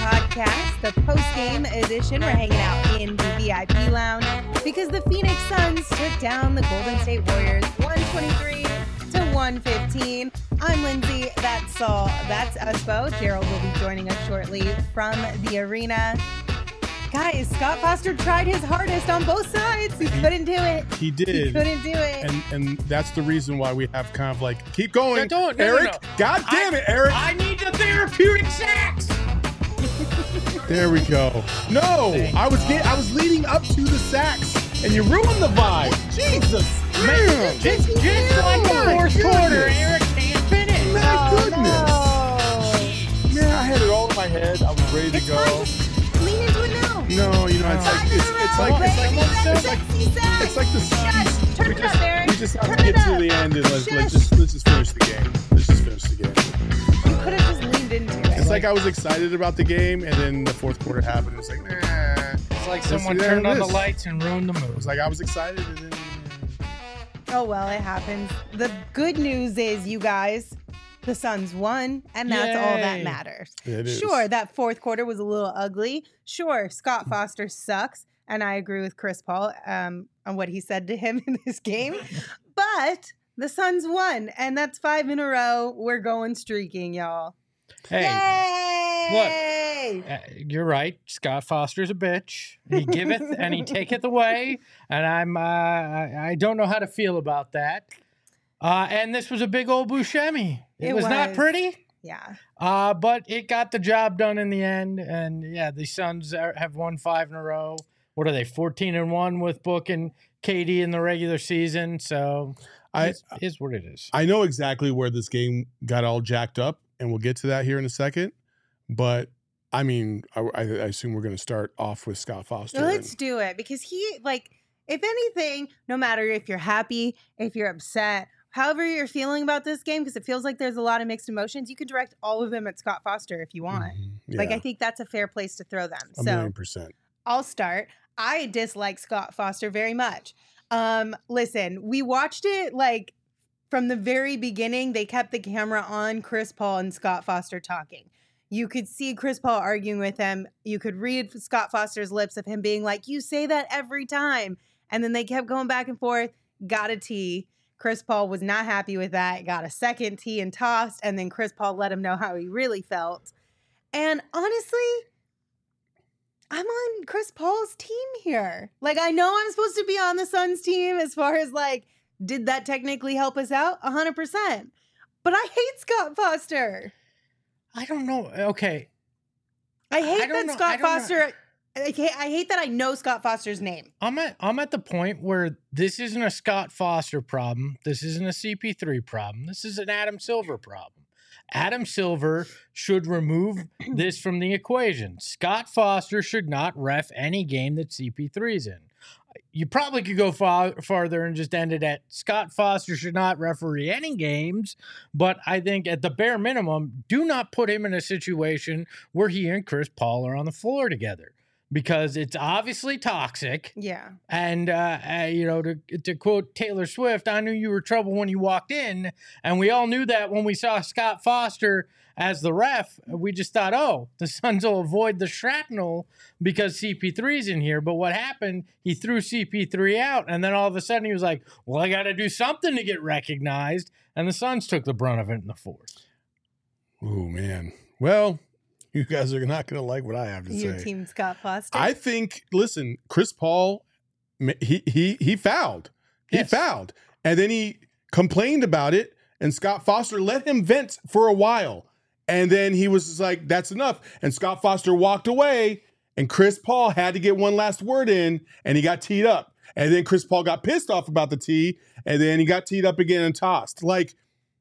podcast, the post-game edition. We're hanging out in the VIP lounge because the Phoenix Suns took down the Golden State Warriors 123 to 115. I'm Lindsay. That's Saul. That's Uspo. Gerald will be joining us shortly from the arena. Guys, Scott Foster tried his hardest on both sides. He couldn't do it. He did. He couldn't do it. And that's the reason why we have kind of like, keep going, No, Eric. no. God damn it, Eric. I need the therapeutic sacks. There we go. No, I was leading up to the sacks, and you ruined the vibe. Jesus, man. Just like the fourth quarter, Eric can't finish. My goodness. No. Man, I had it all in my head. I was ready to go. Fine. Just lean into it now. No, you know, it's like the Suns. Turn it up, Eric. We just have Turn to it get to up. the end and let's just finish the game. Let's just finish the game. You could have just leaned into it. It's like I was excited about the game, and then the fourth quarter happened. It was like, nah. It's like someone turned on the lights and ruined the It mood. was like I was excited, and then Oh, well, it happens. The good news is, you guys, the Suns won, and that's all that Yay. matters. it is. Sure, that fourth quarter was a little ugly. Sure, Scott Foster sucks, and I agree with Chris Paul on what he said to him in this game. But the Suns won, and that's 5 in a row. We're going streaking, y'all. Hey, Yay! you're right. Scott Foster's a bitch. He giveth and he taketh away, and I don't know how to feel about that. And this was a big old Buscemi. It was not pretty. Yeah. But it got the job done in the end. And yeah, the Suns have won 5 in a row. What are they, 14-1 with Book and KD in the regular season? So it is what it is. I know exactly where this game got all jacked up, and we'll get to that here in a second. But I mean, I assume we're going to start off with Scott Foster. Let's do it, because he, like, if anything, no matter if you're happy, if you're upset, however you're feeling about this game, because it feels like there's a lot of mixed emotions, you can direct all of them at Scott Foster if you want. Like, I think that's a fair place to throw them. A So 1,000,000%. I'll start. I dislike Scott Foster very much. Listen, we watched it like from the very beginning. They kept the camera on Chris Paul and Scott Foster talking. You could see Chris Paul arguing with him. You could read Scott Foster's lips of him being like, you say that every time. And then they kept going back and forth, got a tee. Chris Paul was not happy with that, got a second tee and tossed. And then Chris Paul let him know how he really felt. And honestly, I'm on Chris Paul's team here. Like, I know I'm supposed to be on the Suns team as far as like, did that technically help us out? 100%. But I hate Scott Foster. I don't know. Okay. I hate that know. Scott Foster. I hate that I know Scott Foster's name. I'm at the point where this isn't a Scott Foster problem. This isn't a CP3 problem. This is an Adam Silver problem. Adam Silver should remove this from the equation. Scott Foster should not ref any game that CP3's in. You probably could go farther and just end it at Scott Foster should not referee any games, but I think at the bare minimum, do not put him in a situation where he and Chris Paul are on the floor together, because it's obviously toxic. Yeah. And, to quote Taylor Swift, I knew you were trouble when you walked in. And we all knew that when we saw Scott Foster as the ref. We just thought, oh, the Suns will avoid the shrapnel because CP3's in here. But what happened, he threw CP3 out. And then all of a sudden he was like, well, I got to do something to get recognized. And the Suns took the brunt of it in the fourth. Oh, man. Well, you guys are not going to like what I have to Your say. team Scott Foster. I think, listen, Chris Paul, he fouled. He fouled. And then he complained about it, and Scott Foster let him vent for a while. And then he was just like, that's enough. And Scott Foster walked away, and Chris Paul had to get one last word in, and he got teed up. And then Chris Paul got pissed off about the tee, and then he got teed up again and tossed. Like,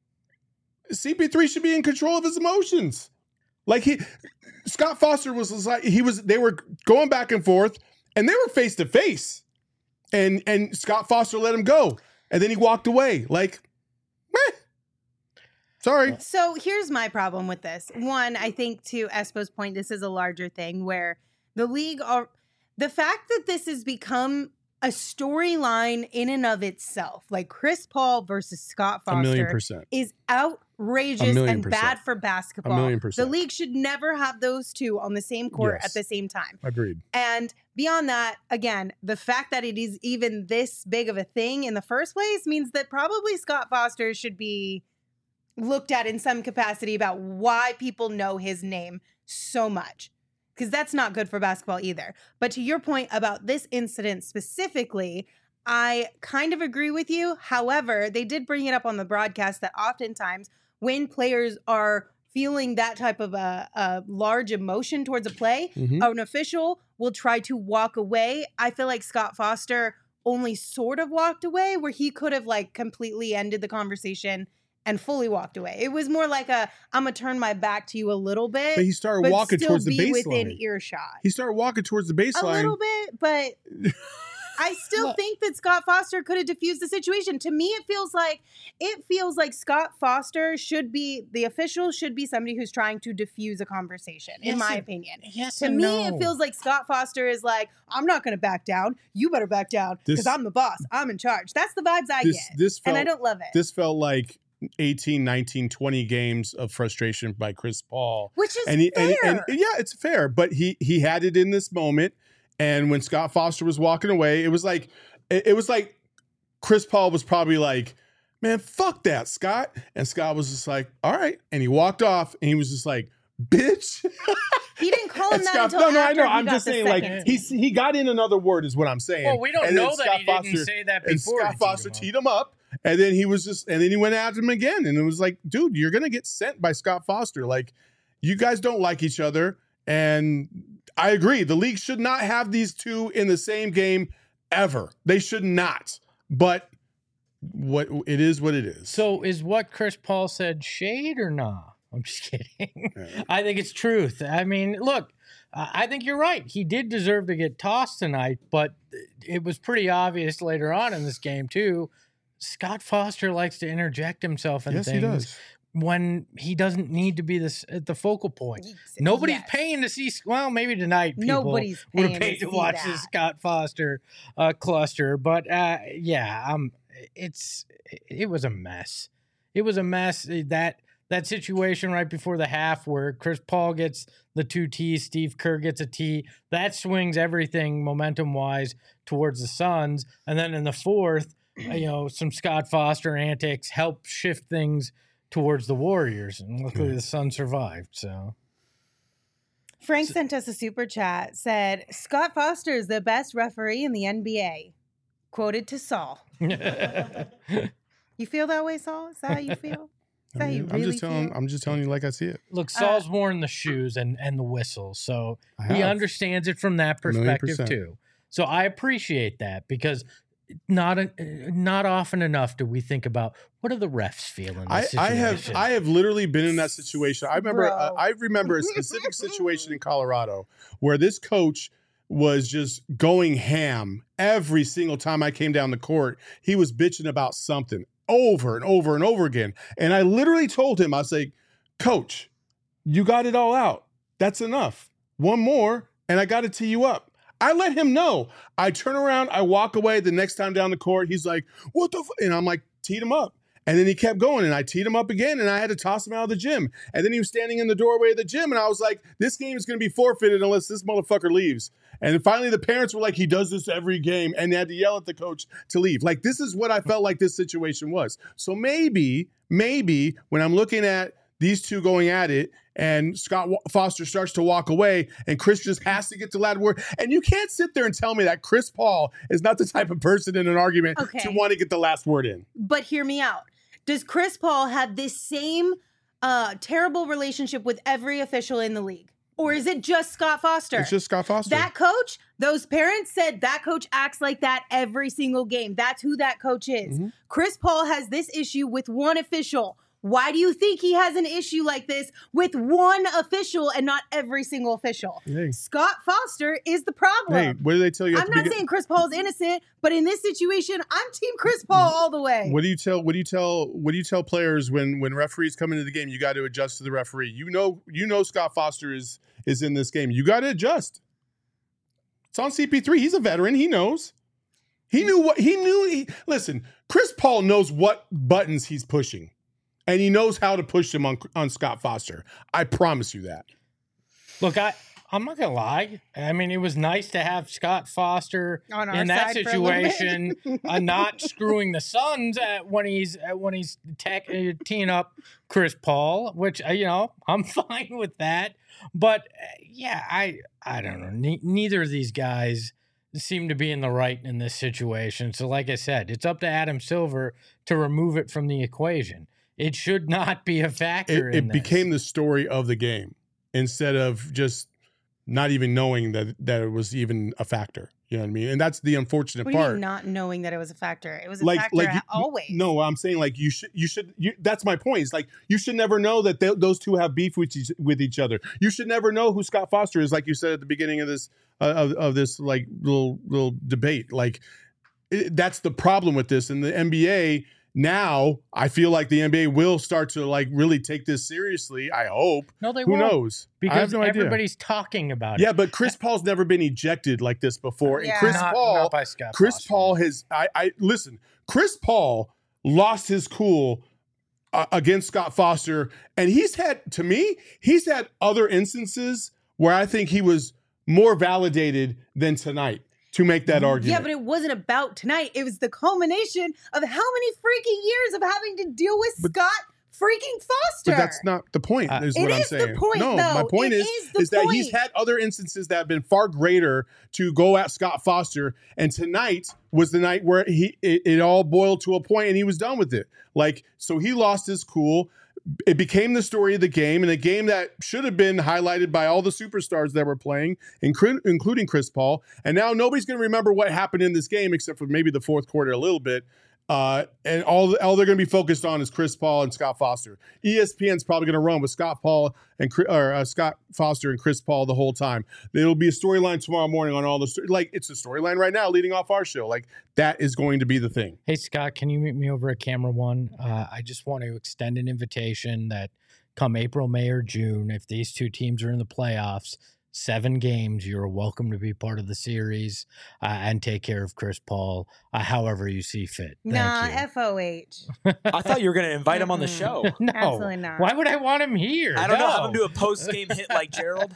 CP3 should be in control of his emotions. Like, Scott Foster was like, they were going back and forth, and they were face to face. And Scott Foster let him go. And then he walked away. Like, meh. Sorry. So here's my problem with this. One, I think to Espo's point, this is a larger thing where the league the fact that this has become a storyline in and of itself, like Chris Paul versus Scott Foster, 1,000,000%. is outrageous and 1,000,000%. bad for basketball. 1,000,000%. The league should never have those two on the same court Yes. at the same time. Agreed. And beyond that, again, the fact that it is even this big of a thing in the first place means that probably Scott Foster should be looked at in some capacity about why people know his name so much. Because that's not good for basketball either. But to your point about this incident specifically, I kind of agree with you. However, they did bring it up on the broadcast that oftentimes when players are feeling that type of a large emotion towards a play, Mhm. an official will try to walk away. I feel like Scott Foster only sort of walked away where he could have like completely ended the conversation and fully walked away. It was more like I'm gonna turn my back to you a little bit, But he started but walking still towards the be within baseline. earshot. He started walking towards the A baseline. little bit, but I still Look. think that Scott Foster could have diffused the situation. To me, it feels like Scott Foster should be the official, should be somebody who's trying to diffuse a conversation, in Yes my and- opinion. Yes To and me, no. it feels like Scott Foster is like, I'm not going to back down. You better back down because This- I'm the boss. I'm in charge. That's the vibes I This get. this And felt I don't love it. this felt like 18, 19, 20 games of frustration by Chris Paul. Which is And fair. and yeah, it's fair, but he had it in this moment. And when Scott Foster was walking away, it was like Chris Paul was probably like, "Man, fuck that, Scott." And Scott was just like, "All right." And he walked off and he was just like, "Bitch." He didn't call him And that Scott, until no, I after know. he I'm got just the saying, like second. he got in another word, is what I'm saying. Well, we don't And then know that Scott he Foster- didn't say that And before. Scott Foster teed him up, and then he was and then he went at him again, and it was like, dude, you're gonna get sent by Scott Foster. Like, you guys don't like each other, and I agree. The league should not have these two in the same game ever. They should not. But what it is, what it is. So is what Chris Paul said shade or not? I'm just kidding. Yeah. I think it's truth. I mean, look, I think you're right. He did deserve to get tossed tonight, but it was pretty obvious later on in this game too. Scott Foster likes to interject himself in Yes, things he does. when he doesn't need to be at the focal point. Nobody's Yes. paying to see. Well, maybe tonight people Nobody's would paying have paid to to see watch that. this Scott Foster cluster. But yeah, it was a mess. It was a mess. That situation right before the half where Chris Paul gets the 2 T's, Steve Kerr gets a T, that swings everything momentum-wise towards the Suns. And then in the fourth, some Scott Foster antics help shift things towards the Warriors. And luckily the Suns survived, so. Frank sent us a super chat, said, Scott Foster is the best referee in the NBA. Quoted to Saul. You feel that way, Saul? Is that how you feel? Is that how you really feel? I'm just telling you like I see it. Look, Saul's worn the shoes and the whistle, so I he have. understands it from that perspective 1,000,000%. too. So I appreciate that because not often enough do we think about what are the refs feeling. I have literally been in that situation. I remember a specific situation in Colorado where this coach was just going ham every single time I came down the court. He was bitching about something over and over and over again. And I literally told him, I was like, Coach, you got it all out. That's enough. One more, and I got to tee you up. I let him know. I turn around, I walk away. The next time down the court, he's like, what the And I'm like, teed him up. And then he kept going, and I teed him up again, and I had to toss him out of the gym. And then he was standing in the doorway of the gym, and I was like, this game is going to be forfeited unless this motherfucker leaves. And then finally, the parents were like, he does this every game, and they had to yell at the coach to leave. Like, this is what I felt like this situation was. So maybe when I'm looking at these two going at it, and Scott Foster starts to walk away, and Chris just has to get the last word. And you can't sit there and tell me that Chris Paul is not the type of person in an argument to want to get the last word in. But hear me out. Does Chris Paul have this same terrible relationship with every official in the league? Or is it just Scott Foster? It's just Scott Foster. That coach, those parents said that coach acts like that every single game. That's who that coach is. Mm-hmm. Chris Paul has this issue with one official. Why do you think he has an issue like this with one official and not every single official? Hey. Scott Foster is the problem. Hey, what do they tell you? I'm not saying Chris Paul is innocent, but in this situation, I'm team Chris Paul all the way. What do you tell players when referees come into the game? You got to adjust to the referee. You know Scott Foster is in this game. You got to adjust. It's on CP3. He's a veteran. He knows. He knew what he knew. Listen, Chris Paul knows what buttons he's pushing, and he knows how to push them on Scott Foster. I promise you that. Look, I'm not gonna lie. I mean, it was nice to have Scott Foster On our in that side for a little bit. situation, not screwing the Suns when he's teeing up Chris Paul, which I'm fine with that. But yeah, I don't know. Neither of these guys seem to be in the right in this situation. So, like I said, it's up to Adam Silver to remove it from the equation. It should not be a factor. It became the story of the game instead of just not even knowing that it was even a factor. You know what I mean? And that's the unfortunate What do you part. mean not knowing that it was a factor? It was a factor always. No, I'm saying like you should. That's my point. It's like you should never know that those two have beef with each other. You should never know who Scott Foster is, like you said at the beginning of this of this like little debate. Like that's the problem with this. In the NBA now, I feel like the NBA will start to like really take this seriously. I hope. No, they Who won't. knows? Because I have no idea. everybody's talking about it. Yeah, but Chris Paul's never been ejected like this before. Yeah. And Chris Not by Scott Foster. Paul has. I listen. Chris Paul lost his cool against Scott Foster, and he's had other instances where I think he was more validated than tonight to make that argument. Yeah, but it wasn't about tonight. It was the culmination of how many freaking years of having to deal with Scott freaking Foster. But that's not the point, is what I'm saying. It is the point, no, though. my point is that he's had other instances that have been far greater to go at Scott Foster, and tonight was the night where it all boiled to a point and he was done with it. Like, so he lost his cool. It became the story of the game, and a game that should have been highlighted by all the superstars that were playing, including Chris Paul. And now nobody's going to remember what happened in this game except for maybe the fourth quarter a little bit. And all they're going to be focused on is Chris Paul and Scott Foster. ESPN's probably going to run with Scott Foster and Chris Paul the whole time. It'll be a storyline tomorrow morning on all the like it's a storyline right now leading off our show. Like that is going to be the thing. Hey Scott, can you meet me over at Camera One? I just want to extend an invitation that come April, May, or June, if these two teams are in the playoffs, 7 games, you're welcome to be part of the series and take care of Chris Paul however you see fit. Thank you. FOH. I thought you were going to invite him on the show. No, Absolutely not. Why would I want him here? I don't know. Have him do a post-game hit like Gerald.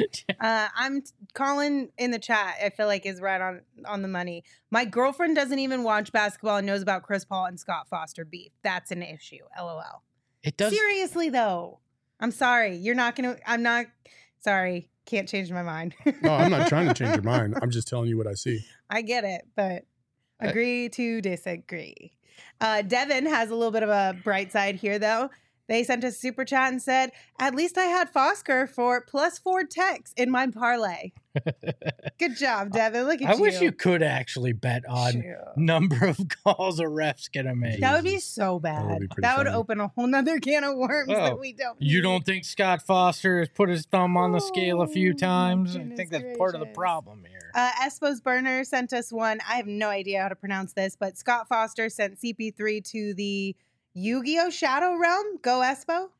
I'm calling in the chat. I feel like is right on the money. My girlfriend doesn't even watch basketball and knows about Chris Paul and Scott Foster beef. That's an issue. LOL. It does. Seriously though, I'm sorry. You're not gonna. I'm not. Sorry. Can't change my mind. No, I'm not trying to change your mind. I'm just telling you what I see. I get it, but agree to disagree. Devin has a little bit of a bright side here, though. They sent us a super chat and said, at least I had Foster for +4 techs in my parlay. Good job, Devin. Look at you. I wish you could actually bet on number of calls a ref's going to make. That would be so bad. That would open a whole nother can of worms that we don't need. You don't think Scott Foster has put his thumb on the scale a few times? I think that's part of the gracious. problem here. Espos Burner sent us one. I have no idea how to pronounce this, but Scott Foster sent CP3 to the Yu-Gi-Oh! Shadow Realm. Go Espo.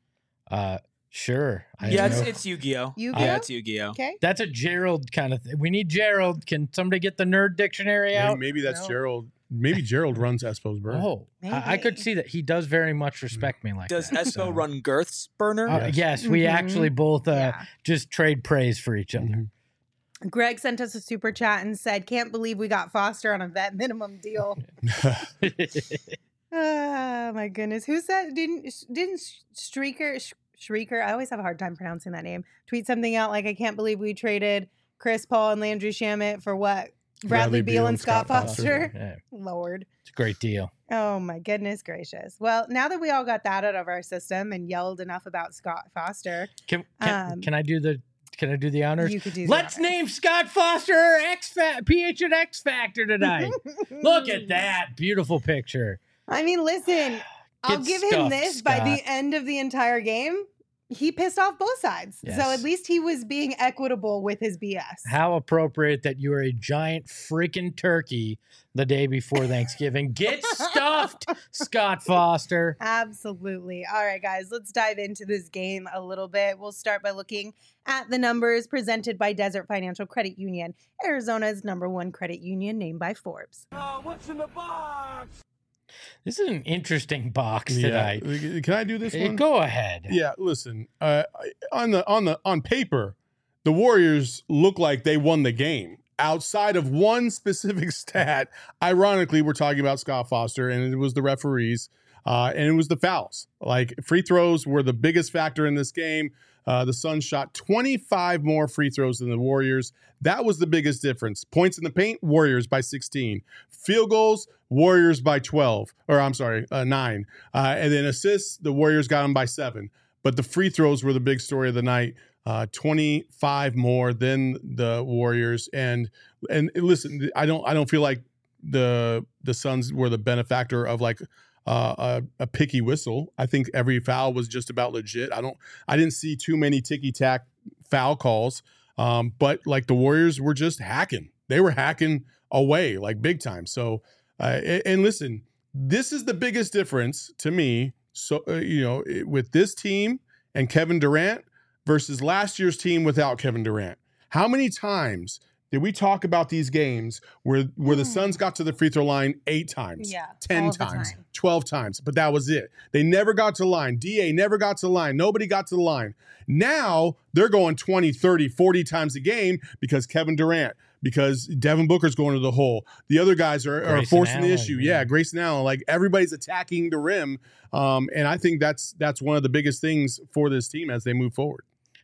Sure. Yeah, it's Yu-Gi-Oh! Yu-Gi-Oh? Yeah, it's Yu-Gi-Oh! Okay. That's a Gerald kind of thing. We need Gerald. Can somebody get the nerd dictionary out? Maybe that's Gerald. Maybe Gerald runs Espo's Burner. Oh, I could see that. He does very much respect me like Does that. Espo run Girth's Burner? Yes, we actually both just trade praise for each other. Mm-hmm. Greg sent us a super chat and said, can't believe we got Foster on a vet minimum deal. Oh my goodness. Who said didn't Shrieker, I always have a hard time pronouncing that name, tweet something out like, I can't believe we traded Chris Paul and Landry Shamet for what? Bradley Beal and Scott Foster? Yeah. Lord. It's a great deal. Oh my goodness gracious. Well, now that we all got that out of our system and yelled enough about Scott Foster. Can I do the honors? You could do Let's name Scott Foster PH at X Factor tonight. Look at that. Beautiful picture. I mean, listen, I'll give him this Scott. by the end of the entire game. he pissed off both sides. Yes. So at least he was being equitable with his BS. How appropriate that you are a giant freaking turkey the day before Thanksgiving. Get stuffed, Scott Foster. Absolutely. All right, guys, let's dive into this game a little bit. We'll start by looking at the numbers presented by Desert Financial Credit Union, Arizona's #1 credit union named by Forbes. What's in the box? This is an interesting box tonight. Can I do this one? Go ahead. Yeah, listen. On paper, the Warriors look like they won the game. Outside of one specific stat, ironically, we're talking about Scott Foster, and it was the referees, and it was the fouls. Like, free throws were the biggest factor in this game. The Suns shot 25 more free throws than the Warriors. That was the biggest difference. Points in the paint, Warriors by 16. Field goals, Warriors by 12. Or I'm sorry, 9. And then assists, the Warriors got them by 7. But the free throws were the big story of the night. 25 more than the Warriors. And listen, I don't feel like the Suns were the benefactor of like a picky whistle. I think every foul was just about legit. I didn't see too many ticky-tack foul calls. But like the Warriors were just hacking. They were hacking away like big time. So and listen, this is the biggest difference to me. So with this team and Kevin Durant versus last year's team without Kevin Durant. How many times did we talk about these games where the Suns got to the free throw line 8 times, 10 times, 12 times, but that was it. They never got to the line. DA never got to the line. Nobody got to the line. Now they're going 20, 30, 40 times a game because Kevin Durant, because Devin Booker's going to the hole. The other guys are forcing the issue. Yeah, Grayson Allen. Like, everybody's attacking the rim. And I think that's one of the biggest things for this team as they move forward.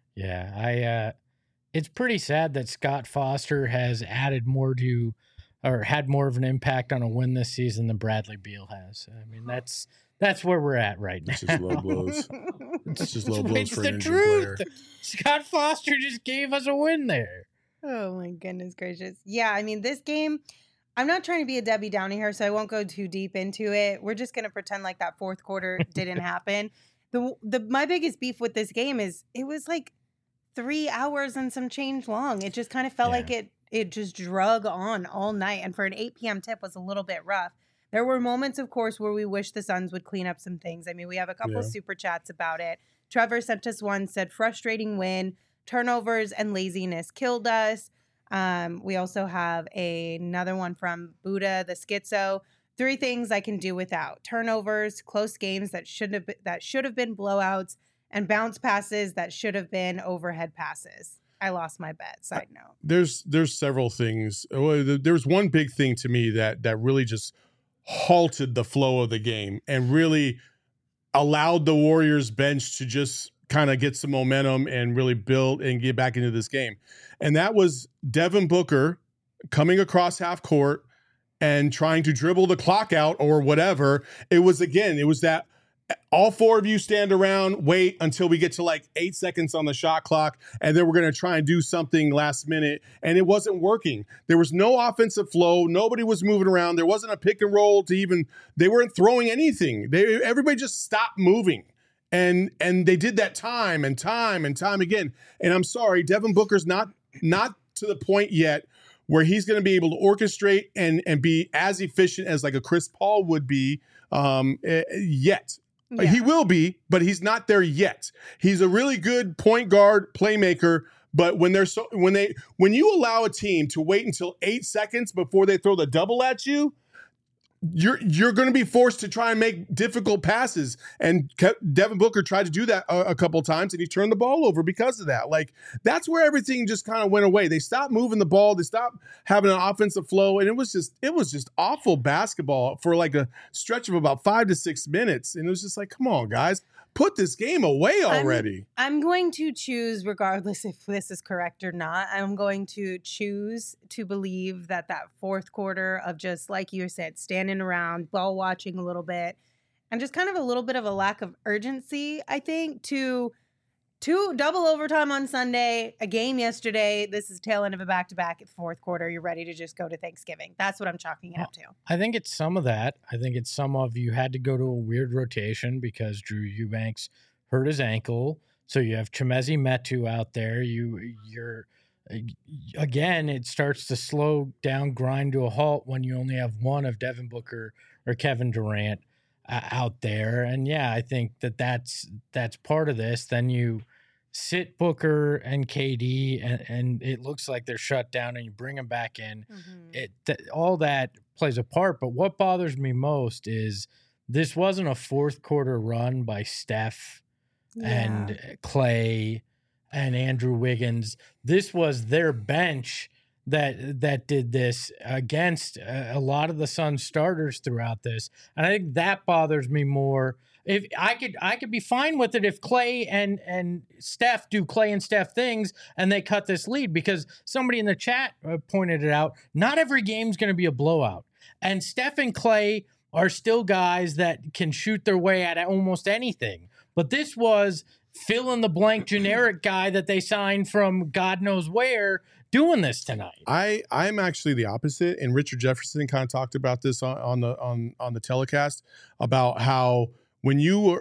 Yeah, it's pretty sad that Scott Foster has added more to, or had more of an impact on a win this season than Bradley Beal has. I mean, that's where we're at right now. It's just low blows. It's just low blows for an injured truth. player. Scott Foster just gave us a win there. Oh my goodness gracious. Yeah, I mean, this game, I'm not trying to be a Debbie Downer here, so I won't go too deep into it. We're just going to pretend like that fourth quarter didn't happen. My biggest beef with this game is it was like 3 hours and some change long. It just kind of felt like it just drug on all night. And for an 8 p.m. tip was a little bit rough. There were moments, of course, where we wish the Suns would clean up some things. I mean, we have a couple of super chats about it. Trevor sent us one, said, frustrating win. Turnovers and laziness killed us. We also have another one from Buddha, the Schizo. 3 things I can do without: turnovers, close games that should have been blowouts, and bounce passes that should have been overhead passes. I lost my bet. Side note. There's several things. There's one big thing to me that really just halted the flow of the game and really allowed the Warriors bench to just kind of get some momentum and really build and get back into this game. And that was Devin Booker coming across half court and trying to dribble the clock out or whatever. It was that all 4 of you stand around, wait until we get to like 8 seconds on the shot clock, and then we're going to try and do something last minute. And it wasn't working. There was no offensive flow. Nobody was moving around. There wasn't a pick and roll they weren't throwing anything. Everybody just stopped moving. And they did that time and time again. And I'm sorry, Devin Booker's not to the point yet where he's going to be able to orchestrate and be as efficient as like a Chris Paul would be yet. Yeah. He will be, but he's not there yet. He's a really good point guard playmaker, but when you allow a team to wait until 8 seconds before they throw the double at you, you're going to be forced to try and make difficult passes. And Devin Booker tried to do that a couple of times, and he turned the ball over because of that. Like, that's where everything just kind of went away. They stopped moving the ball. They stopped having an offensive flow. And it was just awful basketball for like a stretch of about 5 to 6 minutes. And it was just like, come on, guys, put this game away already. I'm going to choose, regardless if this is correct or not, I'm going to choose to believe that fourth quarter of just, like you said, standing around, ball watching a little bit, and just kind of a little bit of a lack of urgency, I think, to double overtime on Sunday, a game yesterday. This is tail end of a back-to-back at the fourth quarter. You're ready to just go to Thanksgiving. That's what I'm chalking it up to. I think it's some of that. I think it's some of you had to go to a weird rotation because Drew Eubanks hurt his ankle. So you have Chimezie Metu out there. You're again, it starts to slow down, grind to a halt when you only have one of Devin Booker or Kevin Durant out there. And yeah, I think that's part of this. Then you sit Booker and KD, and it looks like they're shut down, and you bring them back in. All that plays a part. But what bothers me most is this wasn't a fourth quarter run by Steph and Clay and Andrew Wiggins. This was their bench that did this against a lot of the Suns starters throughout this. And I think that bothers me more. If I could be fine with it if Clay and Steph do Clay and Steph things and they cut this lead, because somebody in the chat pointed it out. Not every game's going to be a blowout. And Steph and Clay are still guys that can shoot their way at almost anything. But this was fill in the blank generic guy that they signed from God knows where doing this tonight. I'm actually the opposite, and Richard Jefferson kind of talked about this on the telecast about how when you're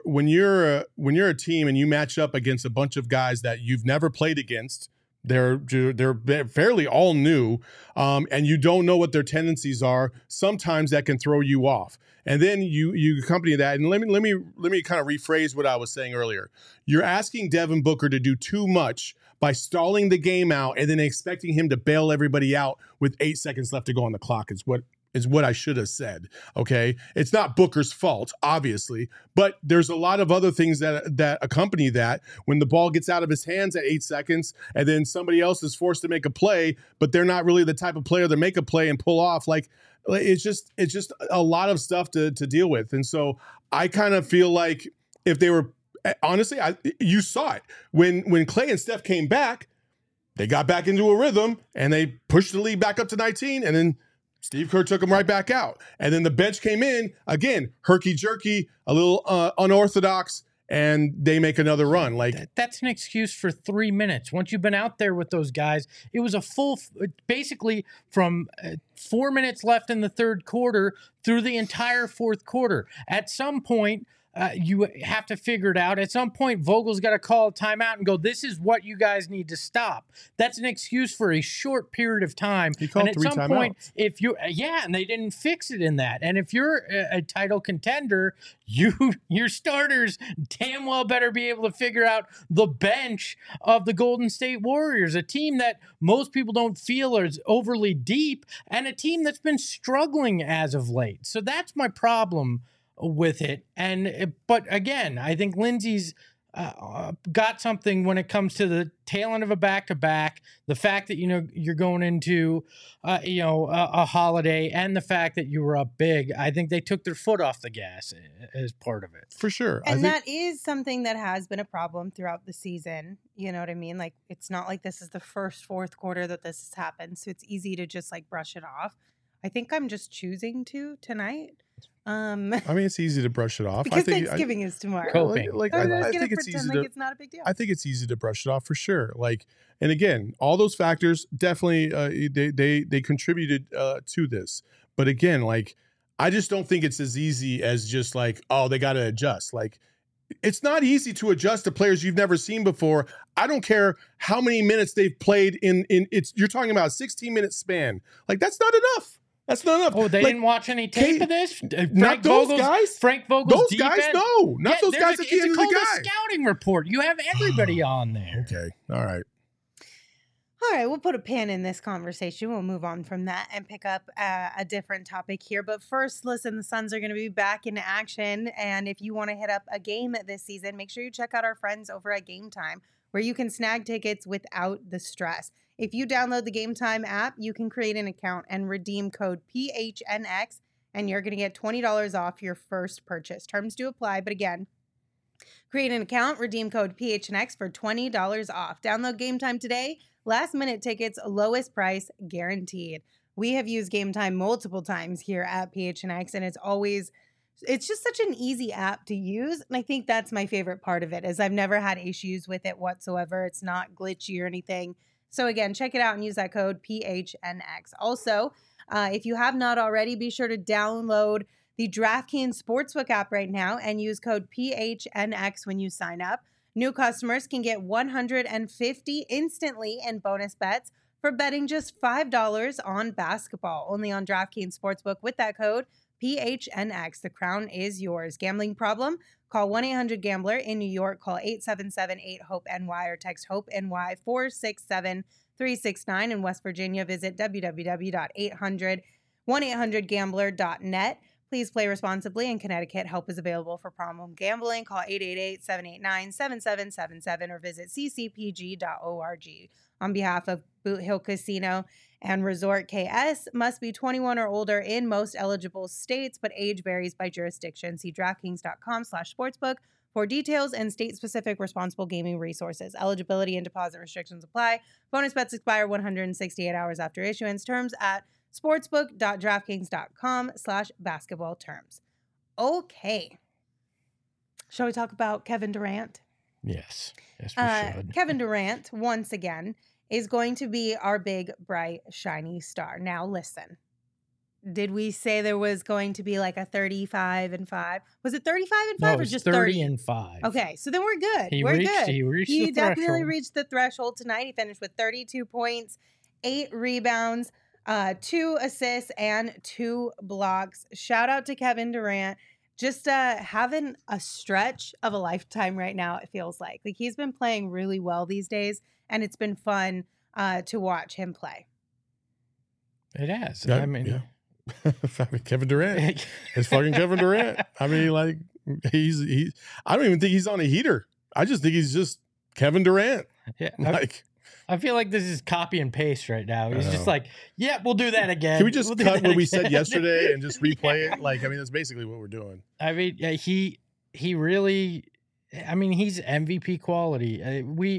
a team and you match up against a bunch of guys that you've never played against, they're fairly all new, and you don't know what their tendencies are. Sometimes that can throw you off. And then you accompany that. And let me kind of rephrase what I was saying earlier. You're asking Devin Booker to do too much by stalling the game out and then expecting him to bail everybody out with 8 seconds left to go on the clock is what I should have said. Okay. It's not Booker's fault, obviously, but there's a lot of other things that accompany that. When the ball gets out of his hands at 8 seconds and then somebody else is forced to make a play, but they're not really the type of player to make a play and pull off. Like, it's just a lot of stuff to deal with. And so I kind of feel like if they were, honestly, you saw it when Clay and Steph came back, they got back into a rhythm and they pushed the lead back up to 19, and then Steve Kerr took them right back out. And then the bench came in, again, herky-jerky, a little unorthodox, and they make another run. Like that's an excuse for 3 minutes. Once you've been out there with those guys, it was a full, basically from 4 minutes left in the third quarter through the entire fourth quarter. At some point, you have to figure it out. At some point, Vogel's got to call a timeout and go, this is what you guys need to stop. That's an excuse for a short period of time. He called and at 3 some timeouts. point, if you and they didn't fix it in that. And if you're a title contender, your starters damn well better be able to figure out the bench of the Golden State Warriors, a team that most people don't feel is overly deep and a team that's been struggling as of late. So that's my problem with it. But again, I think Lindsay's got something when it comes to the tail end of a back-to-back, the fact that, you're going into, a holiday, and the fact that you were up big. I think they took their foot off the gas as part of it. For sure. And that is something that has been a problem throughout the season. You know what I mean? Like, it's not like this is the first fourth quarter that this has happened. So it's easy to just brush it off. I think I'm just choosing to tonight. I mean, it's easy to brush it off. Because I think, Thanksgiving is tomorrow. Coping. I think it's easy to. It's not a big deal. I think it's easy to brush it off for sure. And again, all those factors definitely they contributed to this. But again, I just don't think it's as easy as just they got to adjust. It's not easy to adjust to players you've never seen before. I don't care how many minutes they've played in it's. You're talking about a 16-minute span. That's not enough. That's not enough. Oh, they didn't watch any tape of this? Not those guys. Frank Vogel's those defense? Guys, no. Not those guys at the end of the guy. It's a scouting report. You have everybody on there. Okay. All right. All right, we'll put a pin in this conversation. We'll move on from that and pick up a different topic here. But first, listen, the Suns are going to be back in action. And if you want to hit up a game this season, make sure you check out our friends over at Game Time, where you can snag tickets without the stress. If you download the Game Time app, you can create an account and redeem code PHNX, and you're going to get $20 off your first purchase. Terms do apply, but again, create an account, redeem code PHNX for $20 off. Download Game Time today. Last minute tickets, lowest price guaranteed. We have used Game Time multiple times here at PHNX, and it's just such an easy app to use. And I think that's my favorite part of it, is I've never had issues with it whatsoever. It's not glitchy or anything. So again, check it out and use that code PHNX. Also, if you have not already, be sure to download the DraftKings Sportsbook app right now and use code PHNX when you sign up. New customers can get $150 instantly in bonus bets for betting just $5 on basketball. Only on DraftKings Sportsbook with that code PHNX. The crown is yours. Gambling problem? Call 1-800-GAMBLER. In New York, call 877-8-HOPE-NY or text HOPE-NY 467-369. In West Virginia, visit www.1-800-GAMBLER.net. Please play responsibly. In Connecticut, help is available for problem gambling. Call 888-789-7777 or visit ccpg.org. On behalf of Boot Hill Casino and Resort KS, must be 21 or older in most eligible states, but age varies by jurisdiction. See DraftKings.com/sportsbook for details and state-specific responsible gaming resources. Eligibility and deposit restrictions apply. Bonus bets expire 168 hours after issuance. Terms at sportsbook.draftkings.com/basketball terms. Okay. Shall we talk about Kevin Durant? Yes. Yes, we should. Kevin Durant, once again, is going to be our big, bright, shiny star. Now, listen. Did we say there was going to be like a 35-5? Was it 35-5 or just 30-5? Okay, so then we're good. He we're reached, good. He reached He the definitely threshold. reached the threshold tonight. He finished with 32 points, 8 rebounds, 2 assists, and 2 blocks. Shout out to Kevin Durant. Just having a stretch of a lifetime right now, it feels like. Like, he's been playing really well these days, and it's been fun to watch him play. It has. Yeah, I mean, yeah. Kevin Durant. It's fucking Kevin Durant. I mean, like, he's I don't even think he's on a heater. I just think he's just Kevin Durant. yeah, Like, I feel like this is copy and paste right now. He's I just know. like, yeah, we'll do that again. can we just We'll do cut that what we said again." yesterday and just replay it? Like, I mean, that's basically what we're doing. I mean, yeah, he really, I mean, he's MVP quality.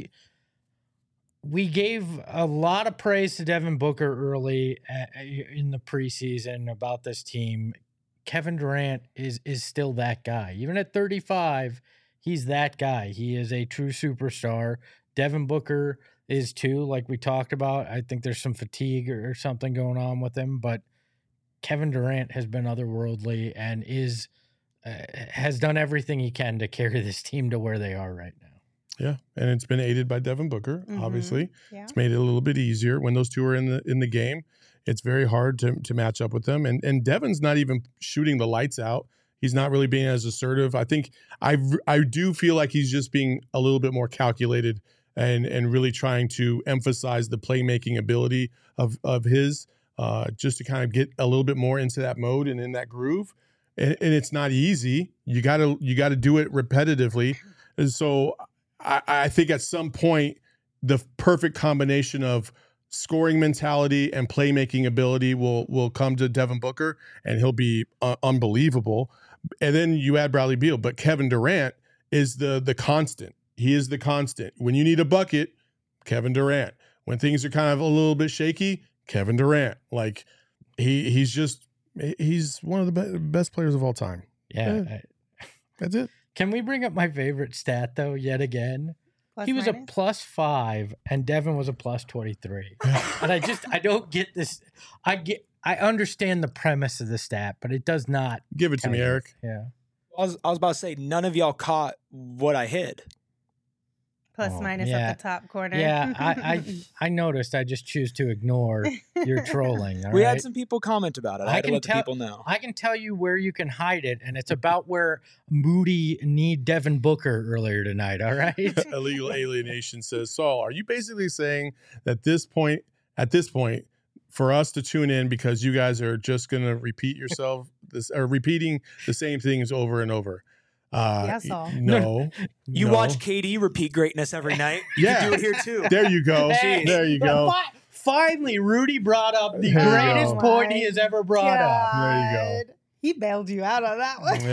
We gave a lot of praise to Devin Booker early in the preseason about this team. Kevin Durant is still that guy. Even at 35, he's that guy. He is a true superstar. Devin Booker is too, like we talked about. I think there's some fatigue or something going on with him, but Kevin Durant has been otherworldly and has done everything he can to carry this team to where they are right now. Yeah, and it's been aided by Devin Booker. Mhm. Obviously, Yeah. it's made it a little bit easier when those two are in the game. It's very hard to match up with them, and Devin's not even shooting the lights out. He's not really being as assertive. I think I do feel like he's just being a little bit more calculated and really trying to emphasize the playmaking ability of his, just to kind of get a little bit more into that mode and in that groove. And it's not easy. You gotta do it repetitively, and so. I think at some point, the perfect combination of scoring mentality and playmaking ability will come to Devin Booker, and he'll be unbelievable. And then you add Bradley Beal, but Kevin Durant is the constant. He is the constant. When you need a bucket, Kevin Durant. When things are kind of a little bit shaky, Kevin Durant. Like he's one of the best players of all time. Yeah. That's it. Can we bring up my favorite stat though? Yet again, Plus he was minus? a +5 and Devin was a +23. And I don't get this. I understand the premise of the stat, but it does not. Give it to me, kind of- Eric. Yeah. I was about to say, none of y'all caught what I hid. Plus Oh, minus yeah. at the top corner. Yeah, I noticed. I just choose to ignore your trolling. All We right? had some people comment about it. I I had to can let the tell- people know. I can tell you where you can hide it, and it's about where Moody need Devin Booker earlier tonight. All right. Illegal Alienation says, Saul, are you basically saying that at this point, for us to tune in because you guys are just going to repeat yourself repeating the same things over and over? Yeah, Saul. No. You no. watch KD repeat greatness every night. You Yeah. can do it here too. There you go. Hey, There you go. Finally, Rudy brought up the There you greatest go. point he has ever brought up. There you go. God. He bailed you out on that one.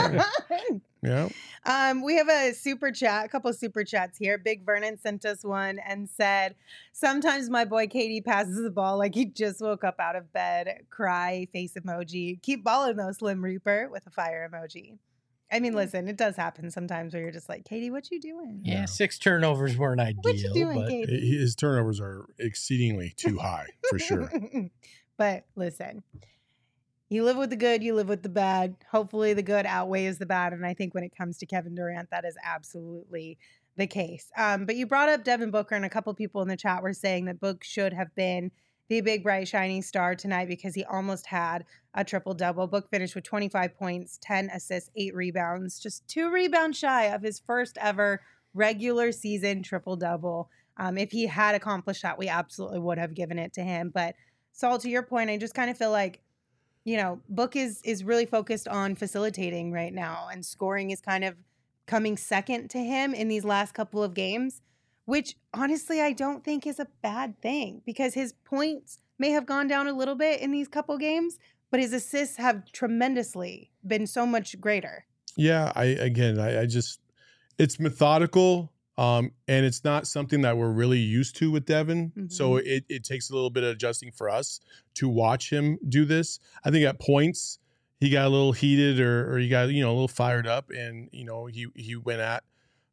Yeah. We have a couple super chats here. Big Vernon sent us one and said, sometimes my boy Katie passes the ball like he just woke up out of bed. Cry, face emoji. Keep balling though, Slim Reaper, with a fire emoji. I mean, listen, it does happen sometimes where you're just like, Katie, what you doing? Yeah, 6 turnovers weren't ideal. What you doing, but Katie? His turnovers are exceedingly too high, for sure. But listen, you live with the good, you live with the bad. Hopefully the good outweighs the bad. And I think when it comes to Kevin Durant, that is absolutely the case. But you brought up Devin Booker, and a couple people in the chat were saying that Book should have been the big, bright, shining star tonight because he almost had a triple-double. Book finished with 25 points, 10 assists, 8 rebounds, just 2 rebounds shy of his first ever regular season triple-double. If he had accomplished that, we absolutely would have given it to him. But Saul, to your point, I just kind of feel like, Book is really focused on facilitating right now, and scoring is kind of coming second to him in these last couple of games, which honestly I don't think is a bad thing because his points may have gone down a little bit in these couple games, but his assists have tremendously been so much greater. Yeah, I just, it's methodical, and it's not something that we're really used to with Devin. Mm-hmm. So it takes a little bit of adjusting for us to watch him do this. I think at points he got a little heated or he got, a little fired up, and, he went at,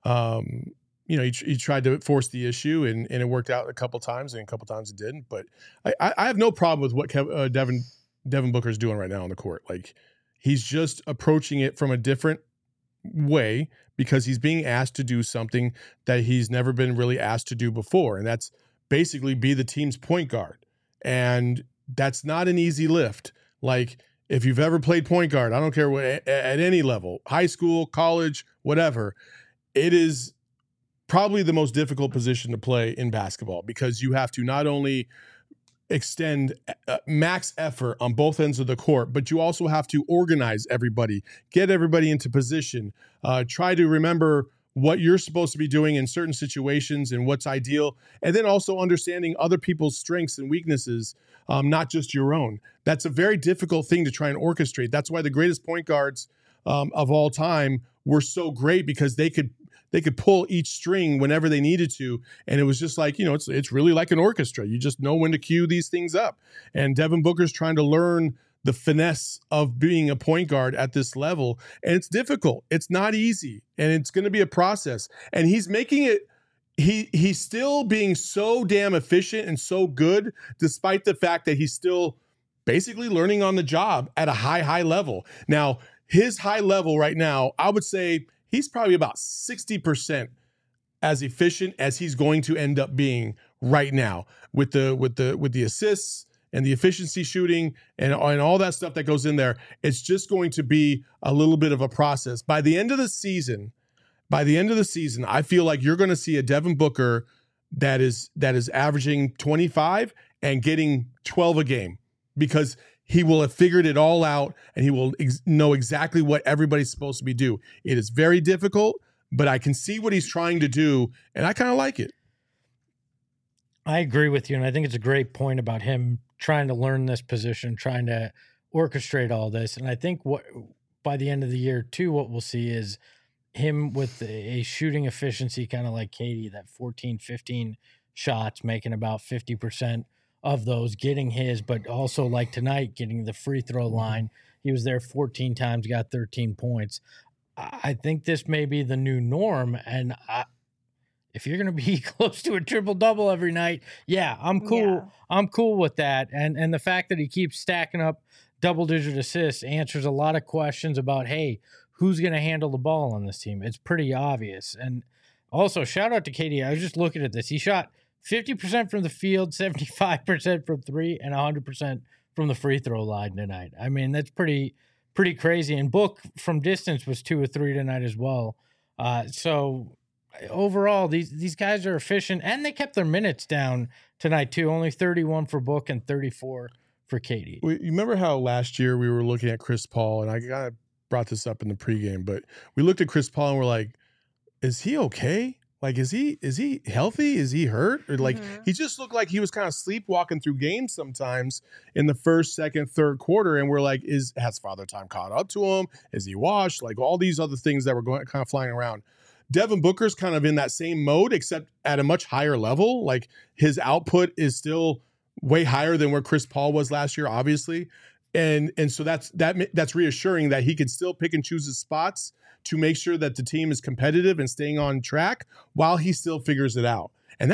he tried to force the issue, and it worked out a couple times, and a couple times it didn't. But I have no problem with what Devin Booker's doing right now on the court. Like, he's just approaching it from a different way because he's being asked to do something that he's never been really asked to do before. And that's basically be the team's point guard. And that's not an easy lift. Like, if you've ever played point guard, I don't care what, at any level, high school, college, whatever, it is probably the most difficult position to play in basketball because you have to not only extend max effort on both ends of the court, but you also have to organize everybody, get everybody into position, try to remember what you're supposed to be doing in certain situations and what's ideal, and then also understanding other people's strengths and weaknesses, not just your own. That's a very difficult thing to try and orchestrate. That's why the greatest point guards of all time were so great, because they could pull each string whenever they needed to. And it was just like, it's really like an orchestra. You just know when to cue these things up. And Devin Booker's trying to learn the finesse of being a point guard at this level. And it's difficult. It's not easy. And it's going to be a process. And he's making it, he's still being so damn efficient and so good, despite the fact that he's still basically learning on the job at a high level. Now, his high level right now, I would say he's probably about 60% as efficient as he's going to end up being right now with the assists and the efficiency shooting and all that stuff that goes in there. It's just going to be a little bit of a process. By the end of the season, I feel like you're going to see a Devin Booker that is averaging 25 and getting 12 a game, because he will have figured it all out and he will know exactly what everybody's supposed to be doing. It is very difficult, but I can see what he's trying to do, and I kind of like it. I agree with you, and I think it's a great point about him trying to learn this position, trying to orchestrate all this. And I think by the end of the year, too, what we'll see is him with a shooting efficiency kind of like Katie, that 14, 15 shots, making about 50% of those, getting his, but also like tonight, getting the free throw line. He was there 14 times, got 13 points. I think this may be the new norm. And if you're going to be close to a triple-double every night, yeah, I'm cool. Yeah. I'm cool with that. And the fact that he keeps stacking up double-digit assists answers a lot of questions about, hey, who's going to handle the ball on this team? It's pretty obvious. And also, shout out to Katie. I was just looking at this. He shot 50% from the field, 75% from three, and 100% from the free throw line tonight. I mean, that's pretty crazy. And Book from distance was 2 or 3 tonight as well. So overall, these guys are efficient, and they kept their minutes down tonight too. Only 31 for Book and 34 for Katie. You remember how last year we were looking at Chris Paul, and I kind of brought this up in the pregame, but we looked at Chris Paul and we're like, is he okay? Like, is he healthy? Is he hurt? Or like, he just looked like he was kind of sleepwalking through games sometimes in the first, second, third quarter. And we're like, has Father Time caught up to him? Is he washed? Like, all these other things that were kind of flying around. Devin Booker's kind of in that same mode, except at a much higher level. Like, his output is still way higher than where Chris Paul was last year, obviously. And so that's reassuring that he can still pick and choose his spots to make sure that the team is competitive and staying on track while he still figures it out. And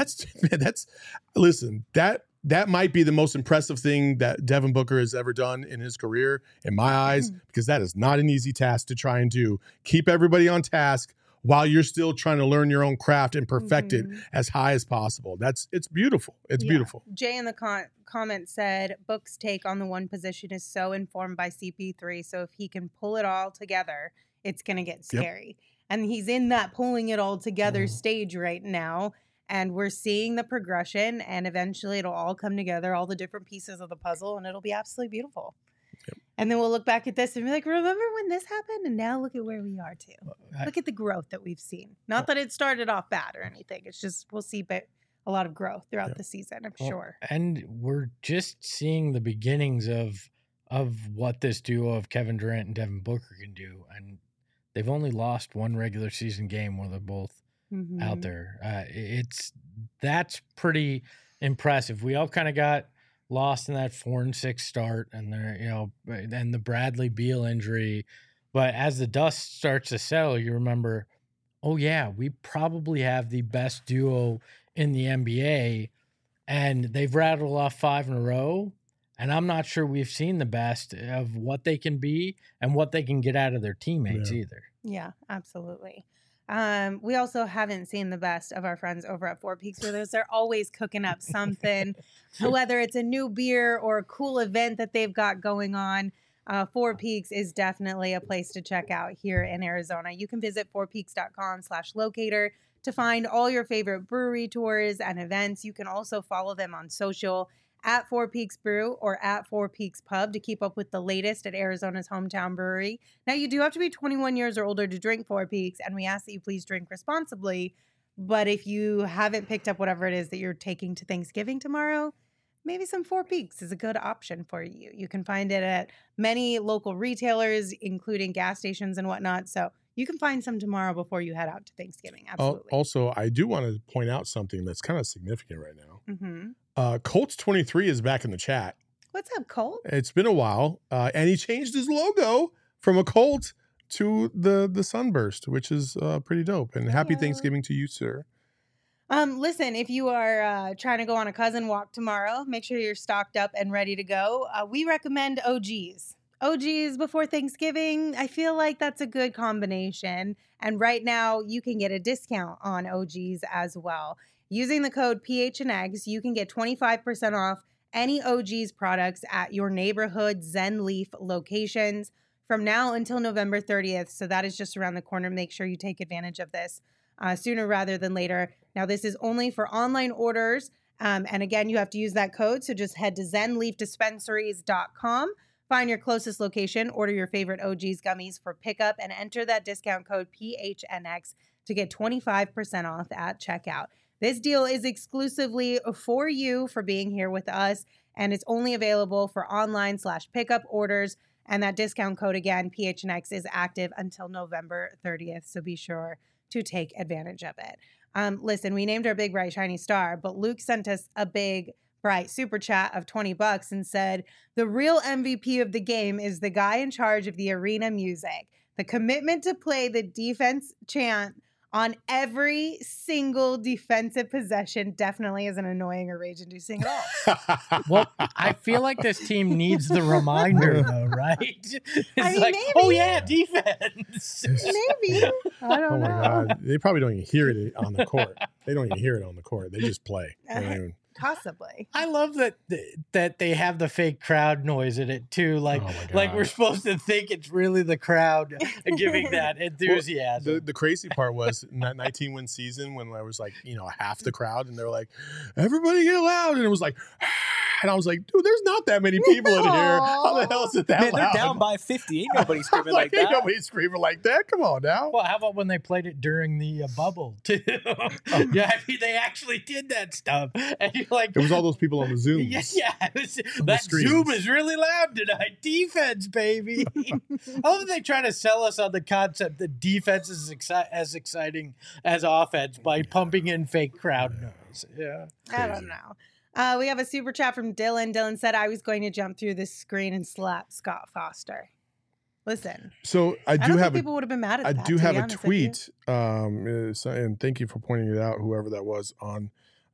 listen, that might be the most impressive thing that Devin Booker has ever done in his career, in my eyes, because that is not an easy task to try and do. Keep everybody on task, while you're still trying to learn your own craft and perfect it as high as possible. It's beautiful. It's beautiful. Jay in the comment said, Book's take on the one position is so informed by CP3. So if he can pull it all together, it's going to get scary. And he's in that pulling it all together stage right now. And we're seeing the progression, and eventually it'll all come together, all the different pieces of the puzzle, and it'll be absolutely beautiful. Yep. And then we'll look back at this and be like, remember when this happened? And now look at where we are too. Look at the growth that we've seen. Not that it started off bad or anything. It's just we'll see a lot of growth throughout the season, I'm sure. And we're just seeing the beginnings of what this duo of Kevin Durant and Devin Booker can do. And they've only lost one regular season game where they're both out there. That's pretty impressive. We all kind of got lost in that 4-6 start, and and the Bradley Beal injury. But as the dust starts to settle, you remember, oh yeah, we probably have the best duo in the NBA, and they've rattled off 5 in a row. And I'm not sure we've seen the best of what they can be and what they can get out of their teammates either. Yeah, absolutely. We also haven't seen the best of our friends over at Four Peaks with us. They're always cooking up something, whether it's a new beer or a cool event that they've got going on. Four Peaks is definitely a place to check out here in Arizona. You can visit fourpeaks.com/locator to find all your favorite brewery tours and events. You can also follow them on social at Four Peaks Brew or at Four Peaks Pub to keep up with the latest at Arizona's hometown brewery. Now, you do have to be 21 years or older to drink Four Peaks, and we ask that you please drink responsibly. But if you haven't picked up whatever it is that you're taking to Thanksgiving tomorrow, maybe some Four Peaks is a good option for you. You can find it at many local retailers, including gas stations and whatnot. So you can find some tomorrow before you head out to Thanksgiving. Absolutely. Also, I do want to point out something that's kind of significant right now. Colts 23 is back in the chat. What's up, Colt? It's been a while, and he changed his logo from a Colt to the Sunburst, which is pretty dope. And happy Thanksgiving to you, sir. Listen, if you are trying to go on a cousin walk tomorrow, make sure you're stocked up and ready to go. We recommend OGs. OGs before Thanksgiving, I feel like that's a good combination. And right now, you can get a discount on OGs as well. Using the code PHNX, you can get 25% off any OGs products at your neighborhood Zen Leaf locations from now until November 30th. So that is just around the corner. Make sure you take advantage of this sooner rather than later. Now, this is only for online orders. And again, you have to use that code. So just head to zenleafdispensaries.com. Find your closest location, order your favorite OG's gummies for pickup, and enter that discount code PHNX to get 25% off at checkout. This deal is exclusively for you for being here with us, and it's only available for online/pickup orders. And that discount code, again, PHNX, is active until November 30th, so be sure to take advantage of it. Listen, we named our big, bright, shiny star, but Luke sent us a big, bright super chat of $20 and said, the real MVP of the game is the guy in charge of the arena music. The commitment to play the defense chant on every single defensive possession definitely isn't annoying or rage-inducing at all. Well, I feel like this team needs the reminder, though, right? It's maybe. Oh yeah, defense. Maybe. I don't know. Oh my God. They probably don't even hear it on the court. They don't even hear it on the court. They just play. They don't even... Possibly. I love that they have the fake crowd noise in it too. Like we're supposed to think it's really the crowd giving that enthusiasm. Well, the crazy part was in that 19-win season when there was half the crowd and they're like, everybody get loud, and it was like, and I was like, dude, there's not that many people in here. How the hell is it that Man, loud? they're down by 50. Ain't nobody screaming like that. Ain't nobody screaming like that. Come on now. Well, how about when they played it during the bubble too? Yeah, I mean, they actually did that stuff, and you're like, it was all those people on the Zoom. Yeah, that Zoom is really loud tonight. Defense, baby. I love that they try to sell us on the concept that defense is as exciting as offense by pumping in fake crowd noise. Yeah, I don't know. We have a super chat from Dylan. Dylan said, I was going to jump through the screen and slap Scott Foster. Listen. So I don't think people would have been mad at that. I do have a tweet, and thank you for pointing it out, whoever that was on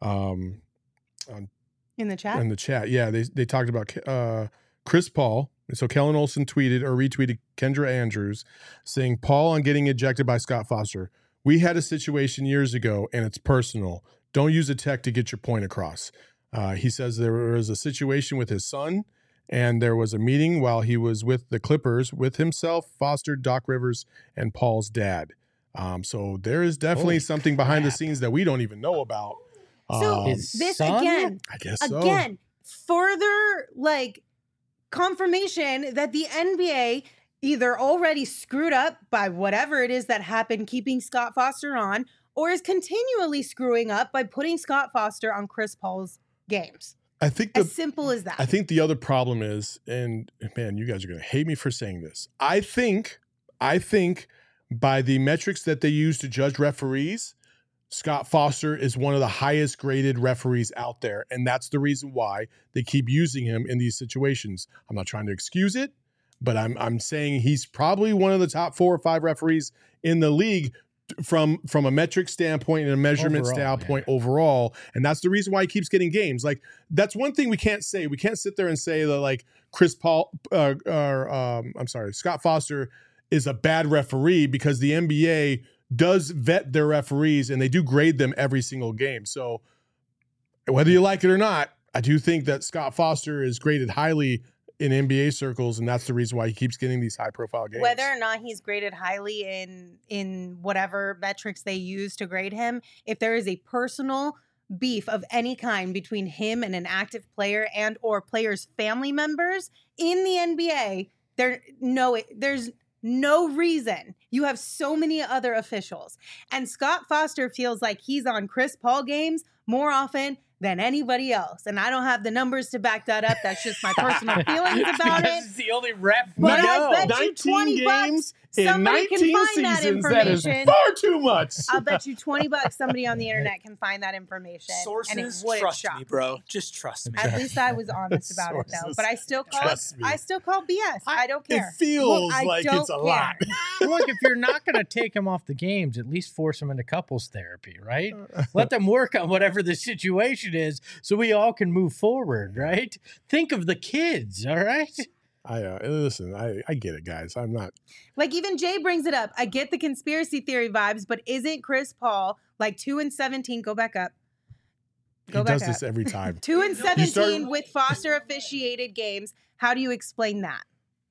in the chat. In the chat, yeah, they talked about Chris Paul. So Kellen Olson tweeted or retweeted Kendra Andrews saying, Paul on getting ejected by Scott Foster. We had a situation years ago, and it's personal. Don't use a tech to get your point across. He says there was a situation with his son, and there was a meeting while he was with the Clippers with himself, Foster, Doc Rivers, and Paul's dad. So there is definitely something behind the scenes that we don't even know about. So His this son? again, I guess so. further like confirmation that the NBA either already screwed up by whatever it is that happened keeping Scott Foster on, or is continually screwing up by putting Scott Foster on Chris Paul's games. I think As simple as that. I think the other problem is, and man, you guys are going to hate me for saying this. I think by the metrics that they use to judge referees, Scott Foster is one of the highest graded referees out there. And that's the reason why they keep using him in these situations. I'm not trying to excuse it, but I'm saying he's probably one of the top 4 or 5 referees in the league from a metric standpoint and a measurement standpoint overall. And that's the reason why he keeps getting games. Like, that's one thing we can't say. We can't sit there and say that like Scott Foster is a bad referee, because the NBA does vet their referees and they do grade them every single game. So whether you like it or not, I do think that Scott Foster is graded highly in NBA circles, and that's the reason why he keeps getting these high-profile games. Whether or not he's graded highly in whatever metrics they use to grade him, if there is a personal beef of any kind between him and an active player and or players' family members in the NBA, there's no reason. You have so many other officials. And Scott Foster feels like he's on Chris Paul games more often than anybody else. And I don't have the numbers to back that up. That's just my personal feelings about it. It's the only ref. But No. I bet you 20 bucks somebody can find that That is information. far too much. I'll bet you 20 bucks somebody on the internet can find that information. Sources, and it wouldn't trust shock me, bro. Just trust me. At least I was honest about it, though. Sources, But I still call trust me. BS. I don't care. It feels I like don't it's a care. lot. Look, if you're not going to take him off the games, at least force him into couples therapy, right? Let them work on whatever the situation is so we all can move forward, right? Think of the kids, all right? Listen, I get it, guys. I'm not. Like, even Jay brings it up. I get the conspiracy theory vibes, but isn't Chris Paul like 2-17? Go back up. He does this every time. 2-17 with Foster officiated games. How do you explain that?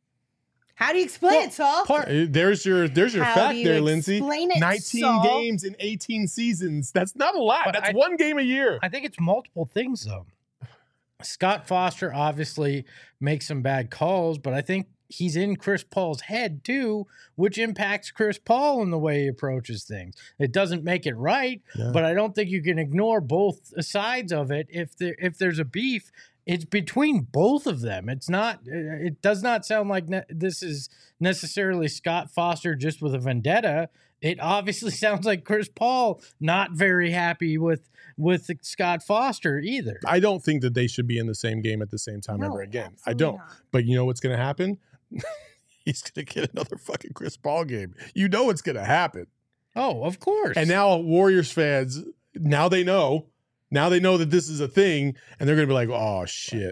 How do you explain it, Saul? There's your How fact do you there, Lindsay. explain it, 19 Saul? games in 18 seasons. That's not a lot. But That's one game a year. I think it's multiple things, though. Scott Foster obviously makes some bad calls, but I think he's in Chris Paul's head too, which impacts Chris Paul in the way he approaches things. It doesn't make it right, but I don't think you can ignore both sides of it. If there's a beef, it's between both of them. It's not. It does not sound like this is necessarily Scott Foster just with a vendetta. It obviously sounds like Chris Paul not very happy with Scott Foster either. I don't think that they should be in the same game at the same time ever again. I don't. not. But you know what's going to happen? He's going to get another fucking Chris Paul game. You know what's going to happen. Oh, of course. And now Warriors fans, now they know that this is a thing, and they're going to be like, oh, shit.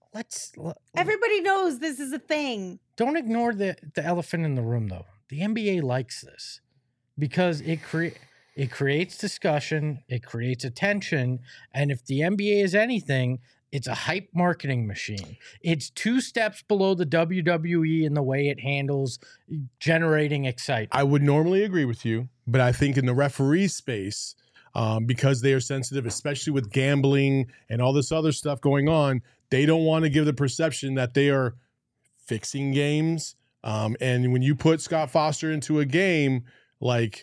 Everybody knows this is a thing. Don't ignore the elephant in the room, though. The NBA likes this because it creates discussion, it creates attention, and if the NBA is anything, it's a hype marketing machine. It's 2 steps below the WWE in the way it handles generating excitement. I would normally agree with you, but I think in the referee space, because they are sensitive, especially with gambling and all this other stuff going on, they don't want to give the perception that they are fixing games. And when you put Scott Foster into a game, like,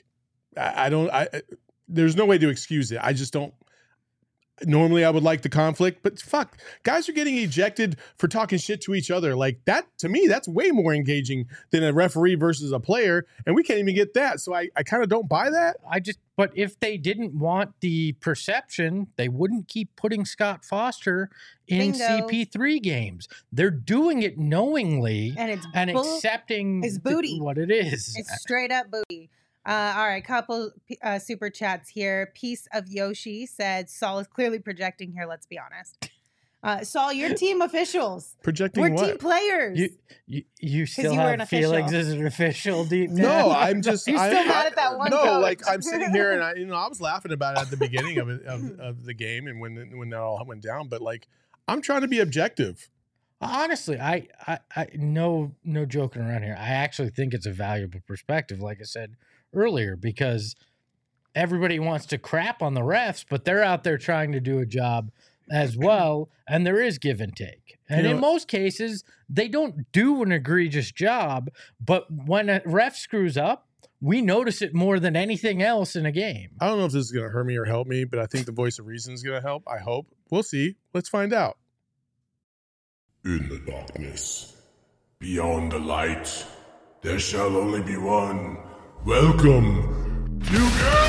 there's no way to excuse it. I just don't. Normally, I would like the conflict, but fuck, guys are getting ejected for talking shit to each other. Like that, to me, that's way more engaging than a referee versus a player, and we can't even get that. So I kind of don't buy that. But if they didn't want the perception, they wouldn't keep putting Scott Foster in Bingo. CP3 games. They're doing it knowingly And accepting it's booty. what it is. It's straight up booty. All right, couple super chats here. Piece of Yoshi said, Saul is clearly projecting here, let's be honest. Saul, your team officials. Projecting We're what? team players. You still you were an have Felix official. as an official deep down? No, I'm just. You're still mad at that one No, coach. like I'm sitting here and I was laughing about it at the beginning of the game and when that all went down. But like, I'm trying to be objective. Honestly, I no joking around here. I actually think it's a valuable perspective, like I said earlier, because everybody wants to crap on the refs, but they're out there trying to do a job as well, and there is give and take. And in most cases, they don't do an egregious job, but when a ref screws up, we notice it more than anything else in a game. I don't know if this is going to hurt me or help me, but I think the voice of reason is going to help. I hope. We'll see. Let's find out. In the darkness, beyond the light, there shall only be one. Welcome to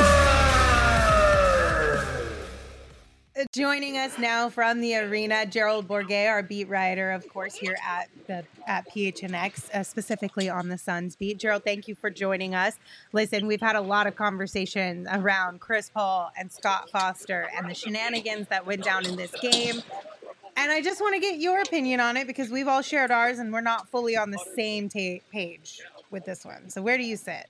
Joining us now from the arena, Gerald Bourguet, our beat writer, of course, here at PHNX, specifically on the Suns beat. Gerald, thank you for joining us. Listen, we've had a lot of conversations around Chris Paul and Scott Foster and the shenanigans that went down in this game. And I just want to get your opinion on it because we've all shared ours and we're not fully on the same page with this one. So where do you sit?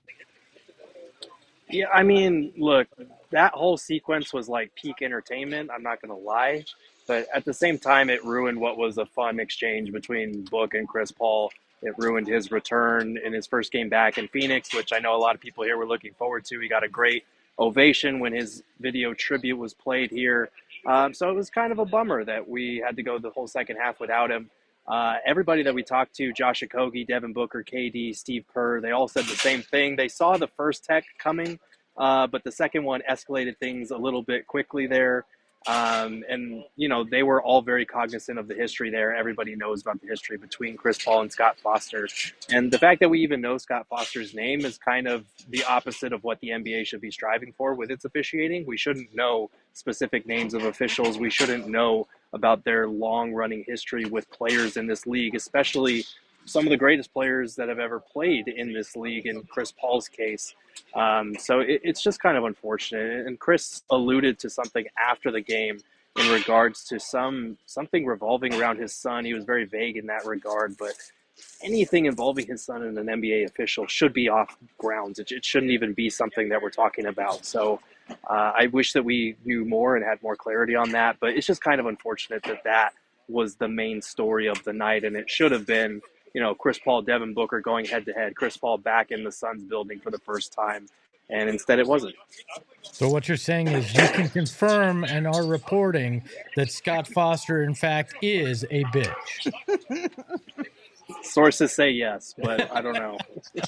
Yeah, I mean, look, that whole sequence was like peak entertainment. I'm not going to lie. But at the same time, it ruined what was a fun exchange between Book and Chris Paul. It ruined his return in his first game back in Phoenix, which I know a lot of people here were looking forward to. He got a great ovation when his video tribute was played here. So it was kind of a bummer that we had to go the whole second half without him. Everybody that we talked to, Josh Okogie, Devin Booker, KD, Steve Kerr, they all said the same thing. They saw the first tech coming, but the second one escalated things a little bit quickly there. And, you know, they were all very cognizant of the history there. Everybody knows about the history between Chris Paul and Scott Foster. And the fact that we even know Scott Foster's name is kind of the opposite of what the NBA should be striving for with its officiating. We shouldn't know specific names of officials. We shouldn't know about their long-running history with players in this league, especially some of the greatest players that have ever played in this league in Chris Paul's case. So it's just kind of unfortunate. And Chris alluded to something after the game in regards to something revolving around his son. He was very vague in that regard, but anything involving his son and an NBA official should be off grounds. It shouldn't even be something that we're talking about. So I wish that we knew more and had more clarity on that, but it's just kind of unfortunate that that was the main story of the night. And it should have been, you know, Chris Paul, Devin Booker going head to head, Chris Paul back in the Suns building for the first time. And instead it wasn't. So what you're saying is you can confirm and are reporting that Scott Foster, in fact, is a bitch. Sources say yes, but I don't know.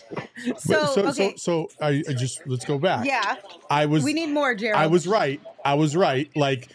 So I just let's go back. yeah, We need more, Gerald. I was right. Like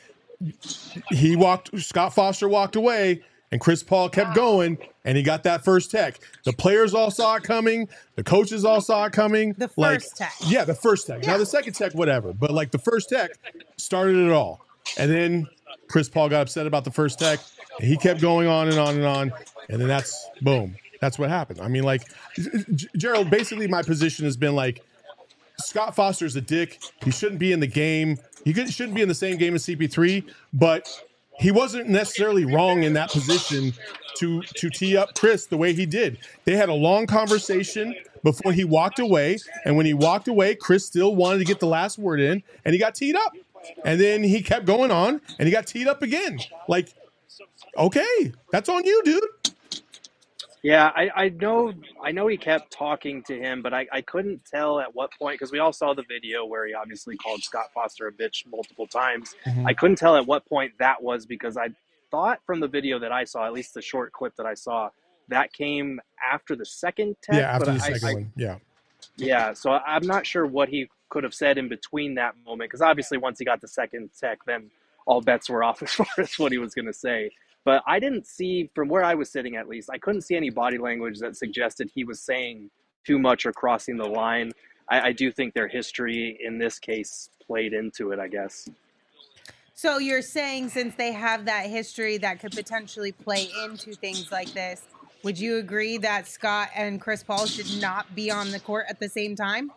Scott Foster walked away and Chris Paul kept going and he got that first tech. The players all saw it coming. The coaches all saw it coming. The first tech. Yeah, the first tech. Yeah. Now the second tech, whatever. But like the first tech started it all. And then Chris Paul got upset about the first tech. And he kept going on and on and on. And then that's boom. That's what happened. I mean, like, Gerald, basically my position has been like, Scott Foster's a dick. He shouldn't be in the game. He shouldn't be in the same game as CP3, but he wasn't necessarily wrong in that position to tee up Chris the way he did. They had a long conversation before he walked away, and when he walked away, Chris still wanted to get the last word in, and he got teed up. And then he kept going on, and he got teed up again. Like, okay, that's on you, dude. Yeah, I know he kept talking to him, but I couldn't tell at what point, because we all saw the video where he obviously called Scott Foster a bitch multiple times. Mm-hmm. I couldn't tell at what point that was, because I thought from the video that I saw, at least the short clip that I saw, that came after the second tech. Yeah, after but the second one. Yeah. Yeah, so I'm not sure what he could have said in between that moment, because obviously once he got the second tech, then all bets were off as far as what he was going to say. But I didn't see, from where I was sitting at least, I couldn't see any body language that suggested he was saying too much or crossing the line. I do think their history in this case played into it, I guess. So you're saying since they have that history that could potentially play into things like this, would you agree that Scott and Chris Paul should not be on the court at the same time?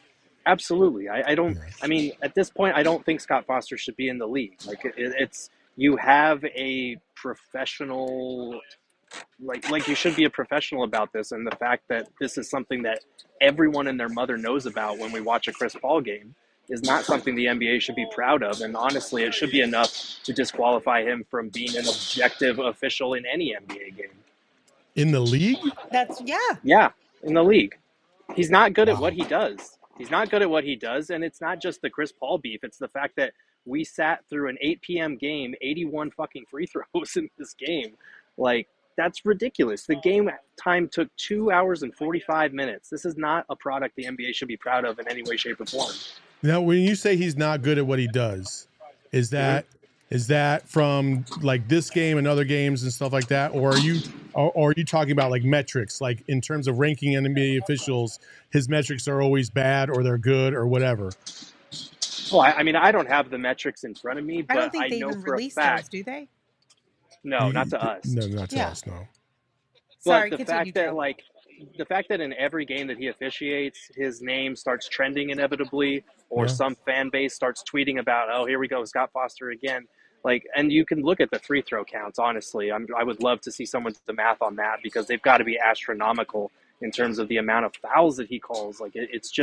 Absolutely. I mean, at this point, I don't think Scott Foster should be in the league. Like, it's you have a professional, like you should be a professional about this, and the fact that this is something that everyone and their mother knows about when we watch a Chris Paul game is not something the NBA should be proud of. And honestly, it should be enough to disqualify him from being an objective official in any NBA game. In the league? That's Yeah, in the league. He's not good at Wow. what he does. He's not good at what he does, and it's not just the Chris Paul beef. It's the fact that we sat through an 8 p.m. game, 81 fucking free throws in this game. Like, that's ridiculous. The game time took 2 hours and 45 minutes. This is not a product the NBA should be proud of in any way, shape, or form. Now, when you say he's not good at what he does, is that from like this game and other games and stuff like that, or are you talking about like metrics, like in terms of ranking NBA officials, his metrics are always bad or they're good or whatever? Well, I mean, I don't have the metrics in front of me, I but don't think I they know even for a release those, fact. do they? No, not to us. No, not to Yeah. us. No. Sorry, But the continue, fact that Joe. the fact that in every game that he officiates, his name starts trending inevitably, or Yeah. some fan base starts tweeting about, oh, here we go, Scott Foster again. Like, and you can look at the free throw counts. Honestly, I would love to see someone do the math on that, because they've got to be astronomical in terms of the amount of fouls that he calls. Like,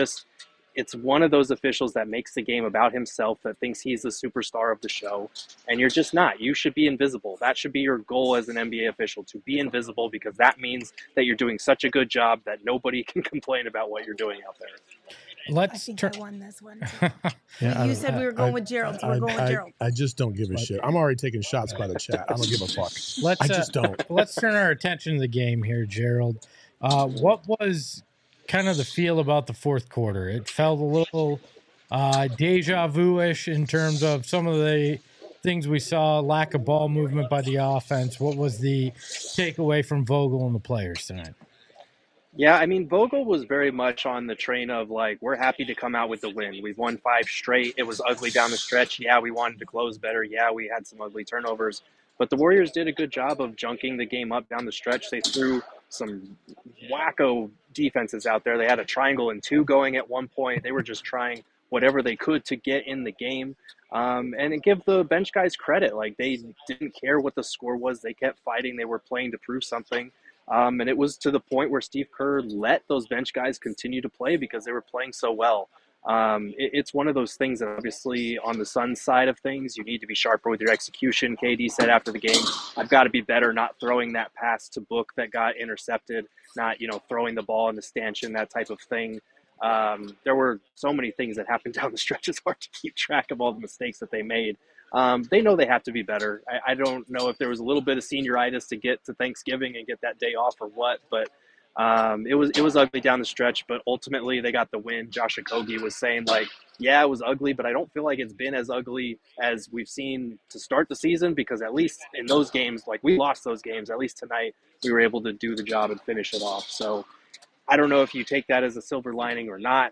it's one of those officials that makes the game about himself, that thinks he's the superstar of the show, and you're just not. You should be invisible. That should be your goal as an NBA official, to be invisible, because that means that you're doing such a good job that nobody can complain about what you're doing out there. I Let's think turn. I won this one. Yeah, You said we were going with Gerald, so we're going with Gerald. I just don't give a shit. I'm already taking shots by the chat. I don't give a fuck. Let's I just don't. let's turn our attention to the game here, Gerald. What was kind of the feel about the fourth quarter? It felt a little deja vu-ish in terms of some of the things we saw, lack of ball movement by the offense. What was the takeaway from Vogel and the players tonight? Yeah, I mean, Vogel was very much on the train of, like, we're happy to come out with the win. We've won 5 straight. It was ugly down the stretch. Yeah, we wanted to close better. Yeah, we had some ugly turnovers. But the Warriors did a good job of junking the game up down the stretch. They threw some wacko defenses out there. They had a triangle and 2 going at one point. They were just trying whatever they could to get in the game. And it give the bench guys credit. Like, they didn't care what the score was. They kept fighting. They were playing to prove something. And it was to the point where Steve Kerr let those bench guys continue to play because they were playing so well. It's one of those things that obviously on the Suns side of things, you need to be sharper with your execution. KD said after the game, I've got to be better not throwing that pass to Book that got intercepted, not, throwing the ball into stanchion, that type of thing. There were so many things that happened down the stretch. It's hard to keep track of all the mistakes that they made. They know they have to be better. I don't know if there was a little bit of senioritis to get to Thanksgiving and get that day off or what, but it was ugly down the stretch, but ultimately they got the win. Josh Okogie was saying, like, yeah, it was ugly, but I don't feel like it's been as ugly as we've seen to start the season, because at least in those games, like, we lost those games, at least tonight we were able to do the job and finish it off. So I don't know if you take that as a silver lining or not.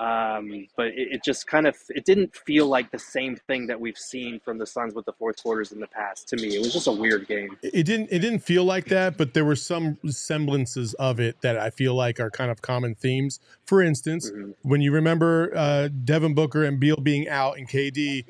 But it just it didn't feel like the same thing that we've seen from the Suns with the fourth quarters in the past. To me, it was just a weird game. It didn't feel like that, but there were some semblances of it that I feel like are kind of common themes. For instance, when you remember Devin Booker and Beal being out and KD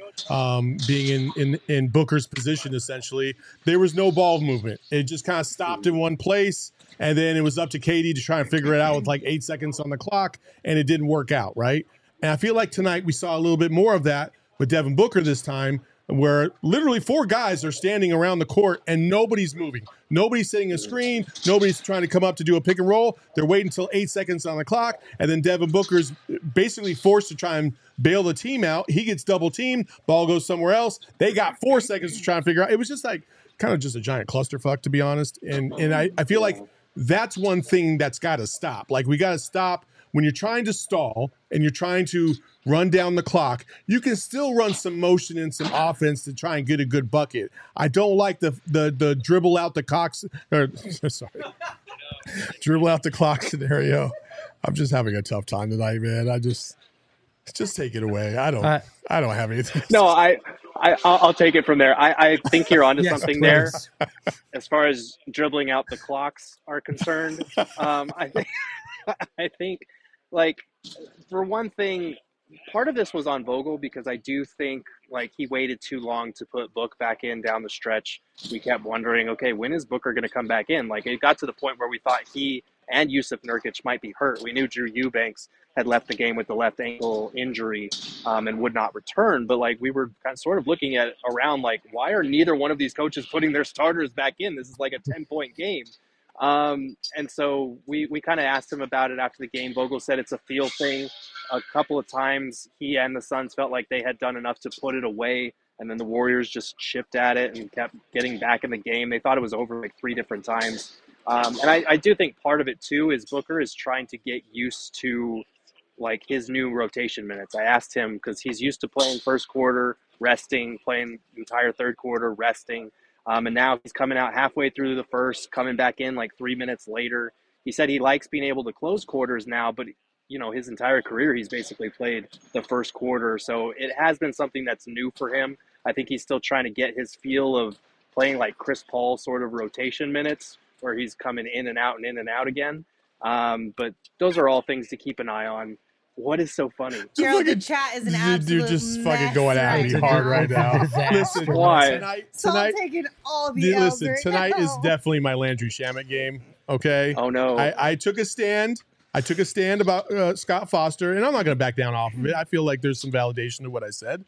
being in Booker's position, essentially, there was no ball movement. It just kind of stopped in one place. And then it was up to KD to try and figure it out with like 8 seconds on the clock, and it didn't work out, right? And I feel like tonight we saw a little bit more of that with Devin Booker this time, where literally 4 guys are standing around the court and nobody's moving. Nobody's setting a screen. Nobody's trying to come up to do a pick and roll. They're waiting until 8 seconds on the clock, and then Devin Booker's basically forced to try and bail the team out. He gets double teamed. Ball goes somewhere else. They got 4 seconds to try and figure out. It was just like kind of just a giant clusterfuck, to be honest. And I feel like that's one thing that's got to stop. Like, we got to stop when you're trying to stall and you're trying to run down the clock. You can still run some motion and some offense to try and get a good bucket. I don't like the dribble out the dribble out the clock scenario. I'm just having a tough time tonight, man. Just take it away. I don't have anything. No, I'll take it from there. I think you're onto something there. As far as dribbling out the clocks are concerned, I think like, for one thing, part of this was on Vogel because I do think like he waited too long to put Book back in down the stretch. We kept wondering, okay, when is Booker going to come back in? Like it got to the point where we thought he and Yusuf Nurkic might be hurt. We knew Drew Eubanks had left the game with the left ankle injury and would not return. But like we were kind of sort of looking at around like, why are neither one of these coaches putting their starters back in? This is like a 10-point game. And so we kind of asked him about it after the game. Vogel said it's a feel thing. A couple of times he and the Suns felt like they had done enough to put it away, and then the Warriors just chipped at it and kept getting back in the game. They thought it was over like 3 different times. And I do think part of it too is Booker is trying to get used to like his new rotation minutes. I asked him because he's used to playing first quarter, resting, playing entire third quarter, resting. And now he's coming out halfway through the first, coming back in like 3 minutes later. He said he likes being able to close quarters now, but his entire career, he's basically played the first quarter. So it has been something that's new for him. I think he's still trying to get his feel of playing like Chris Paul sort of rotation minutes where he's coming in and out and in and out again. But those are all things to keep an eye on. What is so funny? Gerald, the chat is an absolute dude just mess fucking going at me hard right now. Listen, Why? tonight, taking all the L's right tonight now. is definitely my Landry Shamet game. Okay. Oh no. I took a stand. I took a stand about Scott Foster, and I'm not going to back down off of it. I feel like there's some validation to what I said.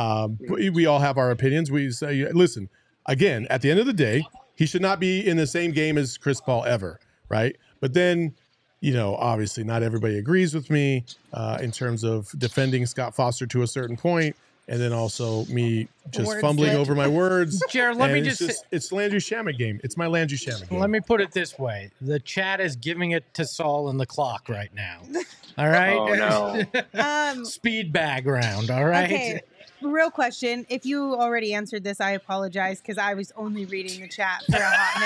We all have our opinions. We say, listen, again, at the end of the day, he should not be in the same game as Chris Paul ever, right? But then, obviously not everybody agrees with me in terms of defending Scott Foster to a certain point, and then also me just fumbling over my words. Jared, let me just it's Landry Shamet game. It's my Landry Shamet game. Let me put it this way. The chat is giving it to Saul and the clock right now. All right? Oh, no. Speed bag round, all right? Okay, real question. If you already answered this, I apologize because I was only reading the chat for a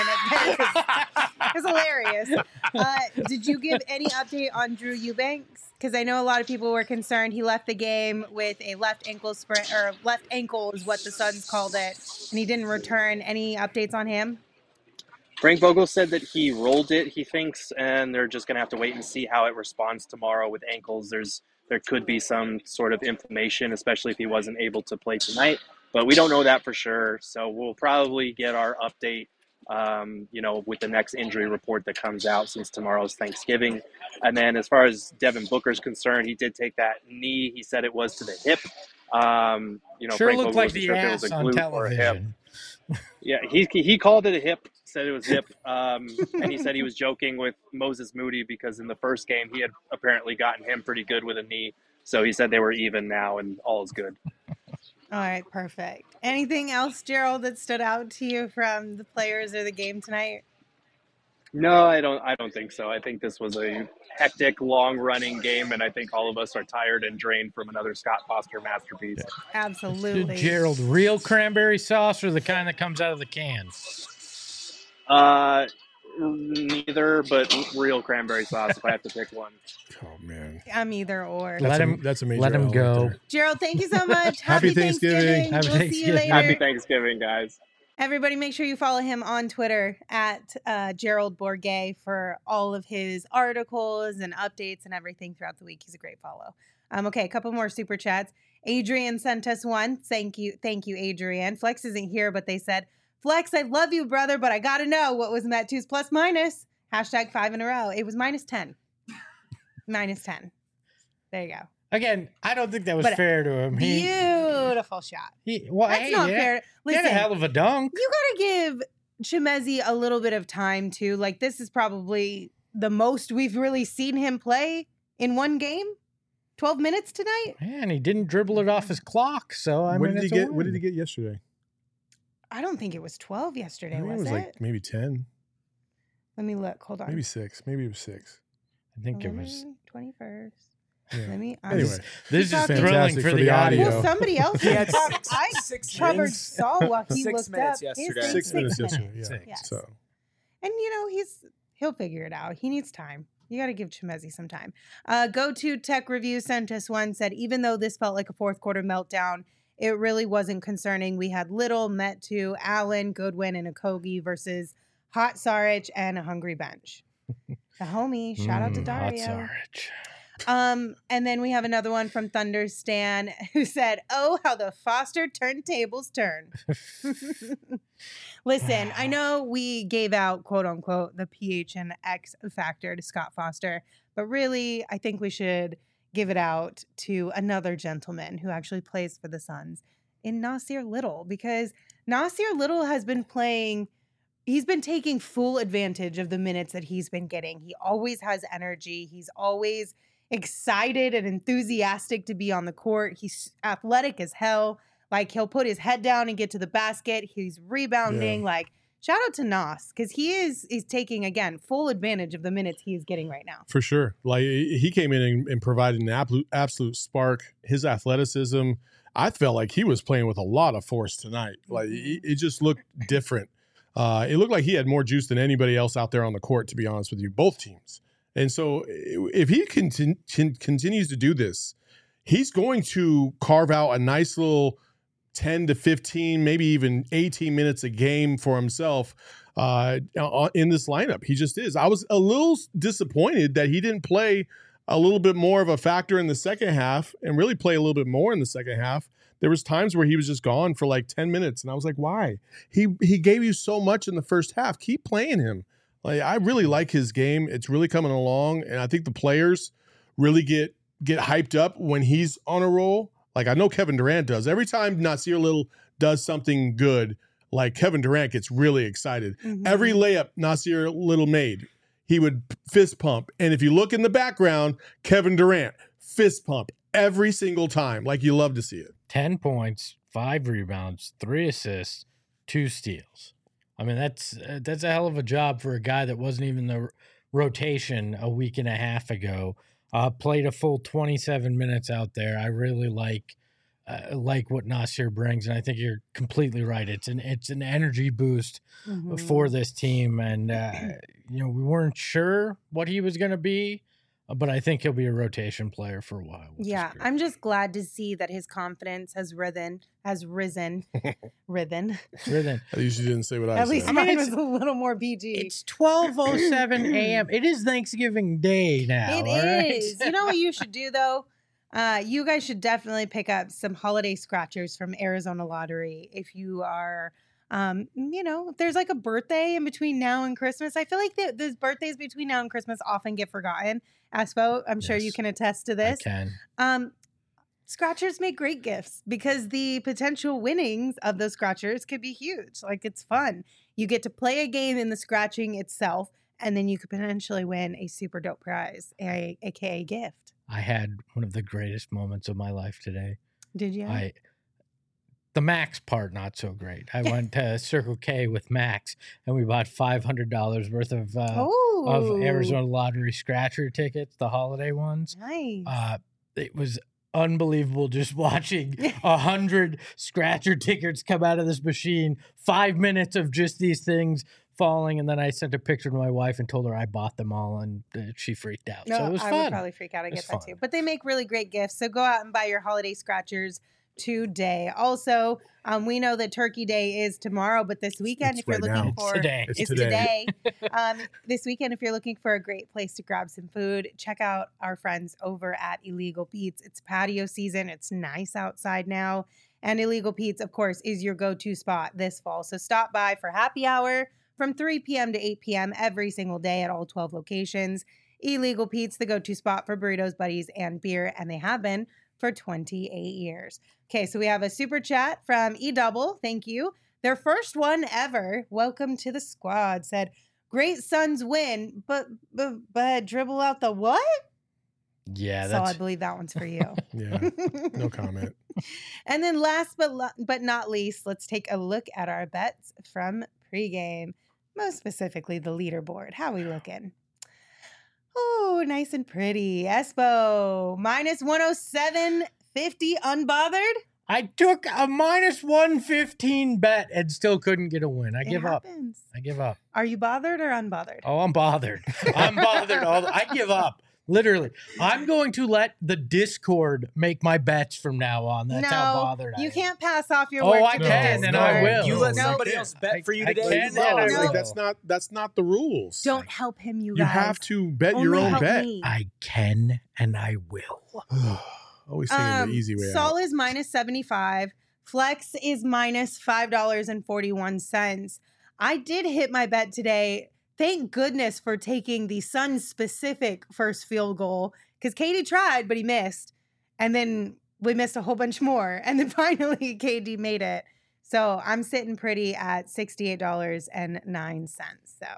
hot minute. It's hilarious. Did you give any update on Drew Eubanks? Because I know a lot of people were concerned. He left the game with a left ankle sprain, or left ankle is what the Suns called it, and he didn't return. Any updates on him? Frank Vogel said that he rolled it, he thinks, and they're just going to have to wait and see how it responds tomorrow with ankles. There could be some sort of inflammation, especially if he wasn't able to play tonight. But we don't know that for sure. So we'll probably get our update, with the next injury report that comes out since tomorrow's Thanksgiving. And then as far as Devin Booker's concerned, he did take that knee. He said it was to the hip. Sure Frank looked Vogel like wasn't the sure if it ass was a on glute or a hip. television. Yeah, he called it a hip, said it was hip, and he said he was joking with Moses Moody because in the first game he had apparently gotten him pretty good with a knee. So he said they were even now and all is good. All right, perfect. Anything else, Gerald, that stood out to you from the players or the game tonight? No, I don't think so. I think this was a hectic, long-running game, and I think all of us are tired and drained from another Scott Foster masterpiece. Absolutely. Gerald, real cranberry sauce or the kind that comes out of the can? Neither, but real cranberry sauce if I have to pick one. Oh man, I'm either or. That's a major. Let him L go. right there. Gerald, thank you so much. Happy Thanksgiving. Happy We'll see you Thanksgiving. later. Happy Thanksgiving, guys. Everybody, make sure you follow him on Twitter at Gerald Bourguet for all of his articles and updates and everything throughout the week. He's a great follow. Okay, a couple more super chats. Adrian sent us one. Thank you, Adrian. Flex isn't here, but they said, Flex, I love you, brother, but I got to know what was Metu's plus minus. # 5 in a row. It was -10. -10. There you go. Again, I don't think that was fair to him. Beautiful shot. That's That's not fair. He had a hell of a dunk. You got to give Chimezie a little bit of time, too. Like, this is probably the most we've really seen him play in one game. 12 minutes tonight? Yeah, and he didn't dribble it off his clock. So, What did he get yesterday? I don't think it was 12 yesterday, I think was it was it? like maybe 10. Let me look. Hold on. Maybe 6. Maybe it was 6. I think it was 21st. Yeah. Let me. Anyway, this is talking- thrilling fantastic for the audio. Well, somebody else. He had I six covered minutes. Saul while he 6 looked minutes up. yesterday. His 6 minutes yesterday. minutes. Yeah. Yes. So And he'll figure it out. He needs time. You got to give Chimezie some time. Go to Tech Review sent us one, said, even though this felt like a fourth quarter meltdown, it really wasn't concerning. We had Little, Metu, Allen, Goodwin, and Okogie versus Hot Saric and a hungry bench. The homie. Shout out to Dario. Hot Sarich. And then we have another one from Thunder Stan who said, "Oh, how the Foster turntables turn." Listen, I know we gave out, quote unquote, the PHNX factor to Scott Foster, but really, I think we should give it out to another gentleman who actually plays for the Suns in Nasir Little, because Nasir Little has been playing. He's been taking full advantage of the minutes that he's been getting. He always has energy. He's always excited and enthusiastic to be on the court. He's athletic as hell. Like, he'll put his head down and get to the basket. He's rebounding. Yeah. Like, shout out to Nas, because he's taking, again, full advantage of the minutes he is getting right now. For sure. Like, he came in and provided an absolute spark. His athleticism, I felt like he was playing with a lot of force tonight. Like, it just looked different. It looked like he had more juice than anybody else out there on the court, to be honest with you, both teams. And so if he continues to do this, he's going to carve out a nice little 10 to 15, maybe even 18 minutes a game for himself in this lineup. He just is. I was a little disappointed that he didn't play a little bit more of a factor in the second half and really play a little bit more in the second half. There was times where he was just gone for like 10 minutes, and I was like, why? He gave you so much in the first half. Keep playing him. Like, I really like his game. It's really coming along, and I think the players really get hyped up when he's on a roll. Like, I know Kevin Durant does. Every time Nasir Little does something good, like, Kevin Durant gets really excited. Mm-hmm. Every layup Nasir Little made, he would fist pump. And if you look in the background, Kevin Durant, fist pump every single time. Like, you love to see it. 10 points, 5 rebounds, 3 assists, 2 steals. I mean, that's a hell of a job for a guy that wasn't even the rotation a week and a half ago. Played a full 27 minutes out there. I really like what Nasir brings, and I think you're completely right. It's an energy boost for this team, and we weren't sure what he was going to be, but I think he'll be a rotation player for a while. Yeah, I'm just glad to see that his confidence has risen. Rhythm. At least you didn't say what I At said. least mine was a little more PG. It's 12:07 a.m. It is Thanksgiving Day now. It is. You know what you should do, though? You guys should definitely pick up some holiday scratchers from Arizona Lottery if you are, if there's like a birthday in between now and Christmas. I feel like those birthdays between now and Christmas often get forgotten. Aspo, I'm sure you can attest to this. I can. Scratchers make great gifts because the potential winnings of those scratchers could be huge. Like, it's fun. You get to play a game in the scratching itself, and then you could potentially win a super dope prize, aka gift. I had one of the greatest moments of my life today. Did you? The Max part, not so great. I went to Circle K with Max, and we bought $500 worth of Arizona Lottery scratcher tickets, the holiday ones. Nice. It was unbelievable just watching 100 scratcher tickets come out of this machine. 5 minutes of just these things falling, and then I sent a picture to my wife and told her I bought them all, and she freaked out. So it was fun. I would probably freak out. I get that too. But they make really great gifts, so go out and buy your holiday scratchers today. Also, we know that Turkey Day is tomorrow, but this weekend, if you're looking for today. It's today. This weekend, if you're looking for a great place to grab some food, check out our friends over at Illegal Pete's. It's patio season. It's nice outside now. And Illegal Pete's, of course, is your go-to spot this fall. So stop by for happy hour from 3 p.m. to 8 p.m. every single day at all 12 locations. Illegal Pete's, the go-to spot for burritos, buddies, and beer, and they have been for 28 years. Okay, so we have a super chat from E-Double. Thank you. Their first one ever. Welcome to the squad. Said, great Suns win, but dribble out the what? Yeah, So I believe that one's for you. Yeah, no comment. And then last but not least, let's take a look at our bets from pregame. Most specifically, the leaderboard. How we looking? Oh, nice and pretty. Espo, minus 107.50 unbothered. I took a minus 115 bet and still couldn't get a win. I give up. I give up. Are you bothered or unbothered? Oh, I'm bothered. I'm bothered. I give up. Literally. I'm going to let the Discord make my bets from now on. That's how bothered I am. You can't pass off your Oh, work I to the can, and I Discord. will. You let No, somebody you else can't. bet for you I today. can, You and I lost. will. Like that's not the rules. Don't help him, you You guys. have to bet your Only own help bet. me. I can and I will. Always taking the easy way Sol out. is minus 75. Flex is minus $5.41. I did hit my bet today. Thank goodness for taking the Suns specific first field goal because KD tried, but he missed. And then we missed a whole bunch more. And then finally KD made it. So I'm sitting pretty at $68.09. So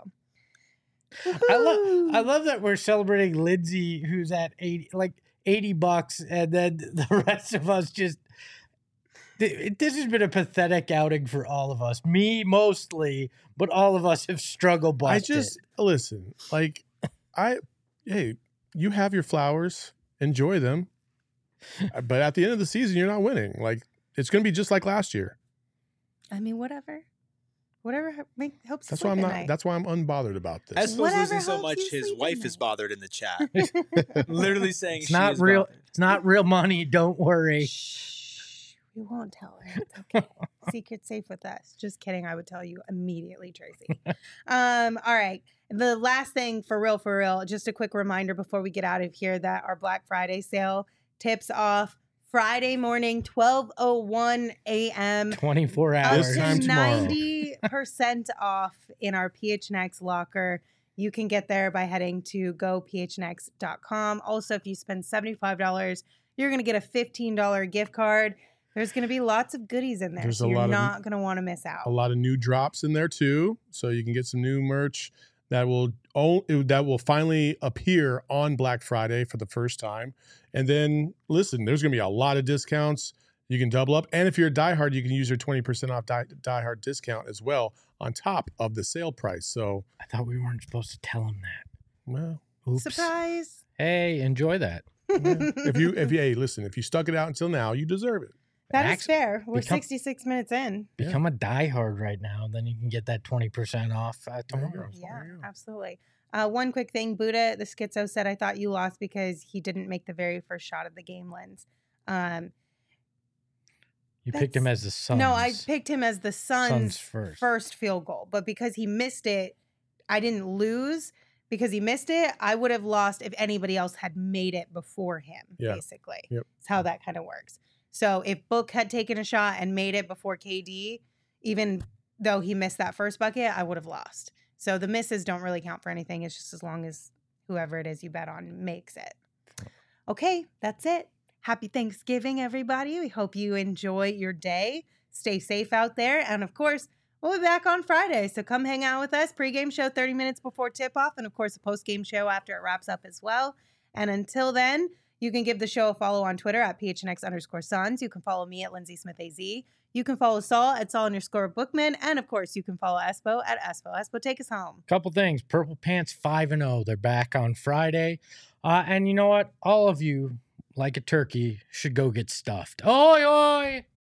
I love that we're celebrating Lindsay, who's at $80, and then the rest of us just. This has been a pathetic outing for all of us. Me mostly, but all of us have struggled. Listen. Like, hey, you have your flowers, enjoy them, but at the end of the season, you're not winning. Like, it's going to be just like last year. I mean, whatever helps. That's why I'm not. That's why I'm unbothered about this. Espo's Whatever losing so helps much, you his sleep wife at is night. bothered in the chat. Literally saying it's not real. bothered. It's not real money. Don't worry. Shh, we won't tell her. It's okay. Secret safe with us. Just kidding. I would tell you immediately, Tracy. All right. The last thing for real, just a quick reminder before we get out of here that our Black Friday sale tips off Friday morning, 12:01 a.m. 24 Up hours. This to time tomorrow. 90% off in our PHNX locker. You can get there by heading to gophnx.com. Also, if you spend $75, you're going to get a $15 gift card. There's going to be lots of goodies in there, There's so a you're lot of- not going to want to miss A out. lot of new drops in there too, so you can get some new merch that will finally appear on Black Friday for the first time. And then listen, there's going to be a lot of discounts. You can double up, and if you're a diehard, you can use your 20% off diehard discount as well on top of the sale price. So, I thought we weren't supposed to tell him that. well, Oops. Surprise. Hey, enjoy that. if you stuck it out until now, you deserve it. That is Max, fair. We're become- 66 minutes in. Yeah. Become a diehard right now. Then you can get that 20% off tomorrow. Yeah, absolutely. One quick thing, Buddha, the schizo said, I thought you lost because he didn't make the very first shot of the game lens. You picked him as the Suns. No, I picked him as the Suns' first. first field goal. But because he missed it, I didn't lose. Because he missed it, I would have lost if anybody else had made it before him, Yeah. basically. Yep. That's how that kind of works. So if Book had taken a shot and made it before KD, even though he missed that first bucket, I would have lost. So the misses don't really count for anything. It's just as long as whoever it is you bet on makes it. Okay, that's it. Happy Thanksgiving, everybody. We hope you enjoy your day. Stay safe out there. And of course, we'll be back on Friday. So come hang out with us. Pre-game show 30 minutes before tip-off. And of course, a post-game show after it wraps up as well. And until then, you can give the show a follow on Twitter at PHNX_Suns. You can follow me at Lindsay Smith AZ. You can follow Saul at Saul_Bookman. And of course, you can follow Espo at Espo. Espo, take us home. Couple things. Purple Pants 5-0. They're back on Friday. And you know what? All of you, like a turkey, should go get stuffed. Oi, oi!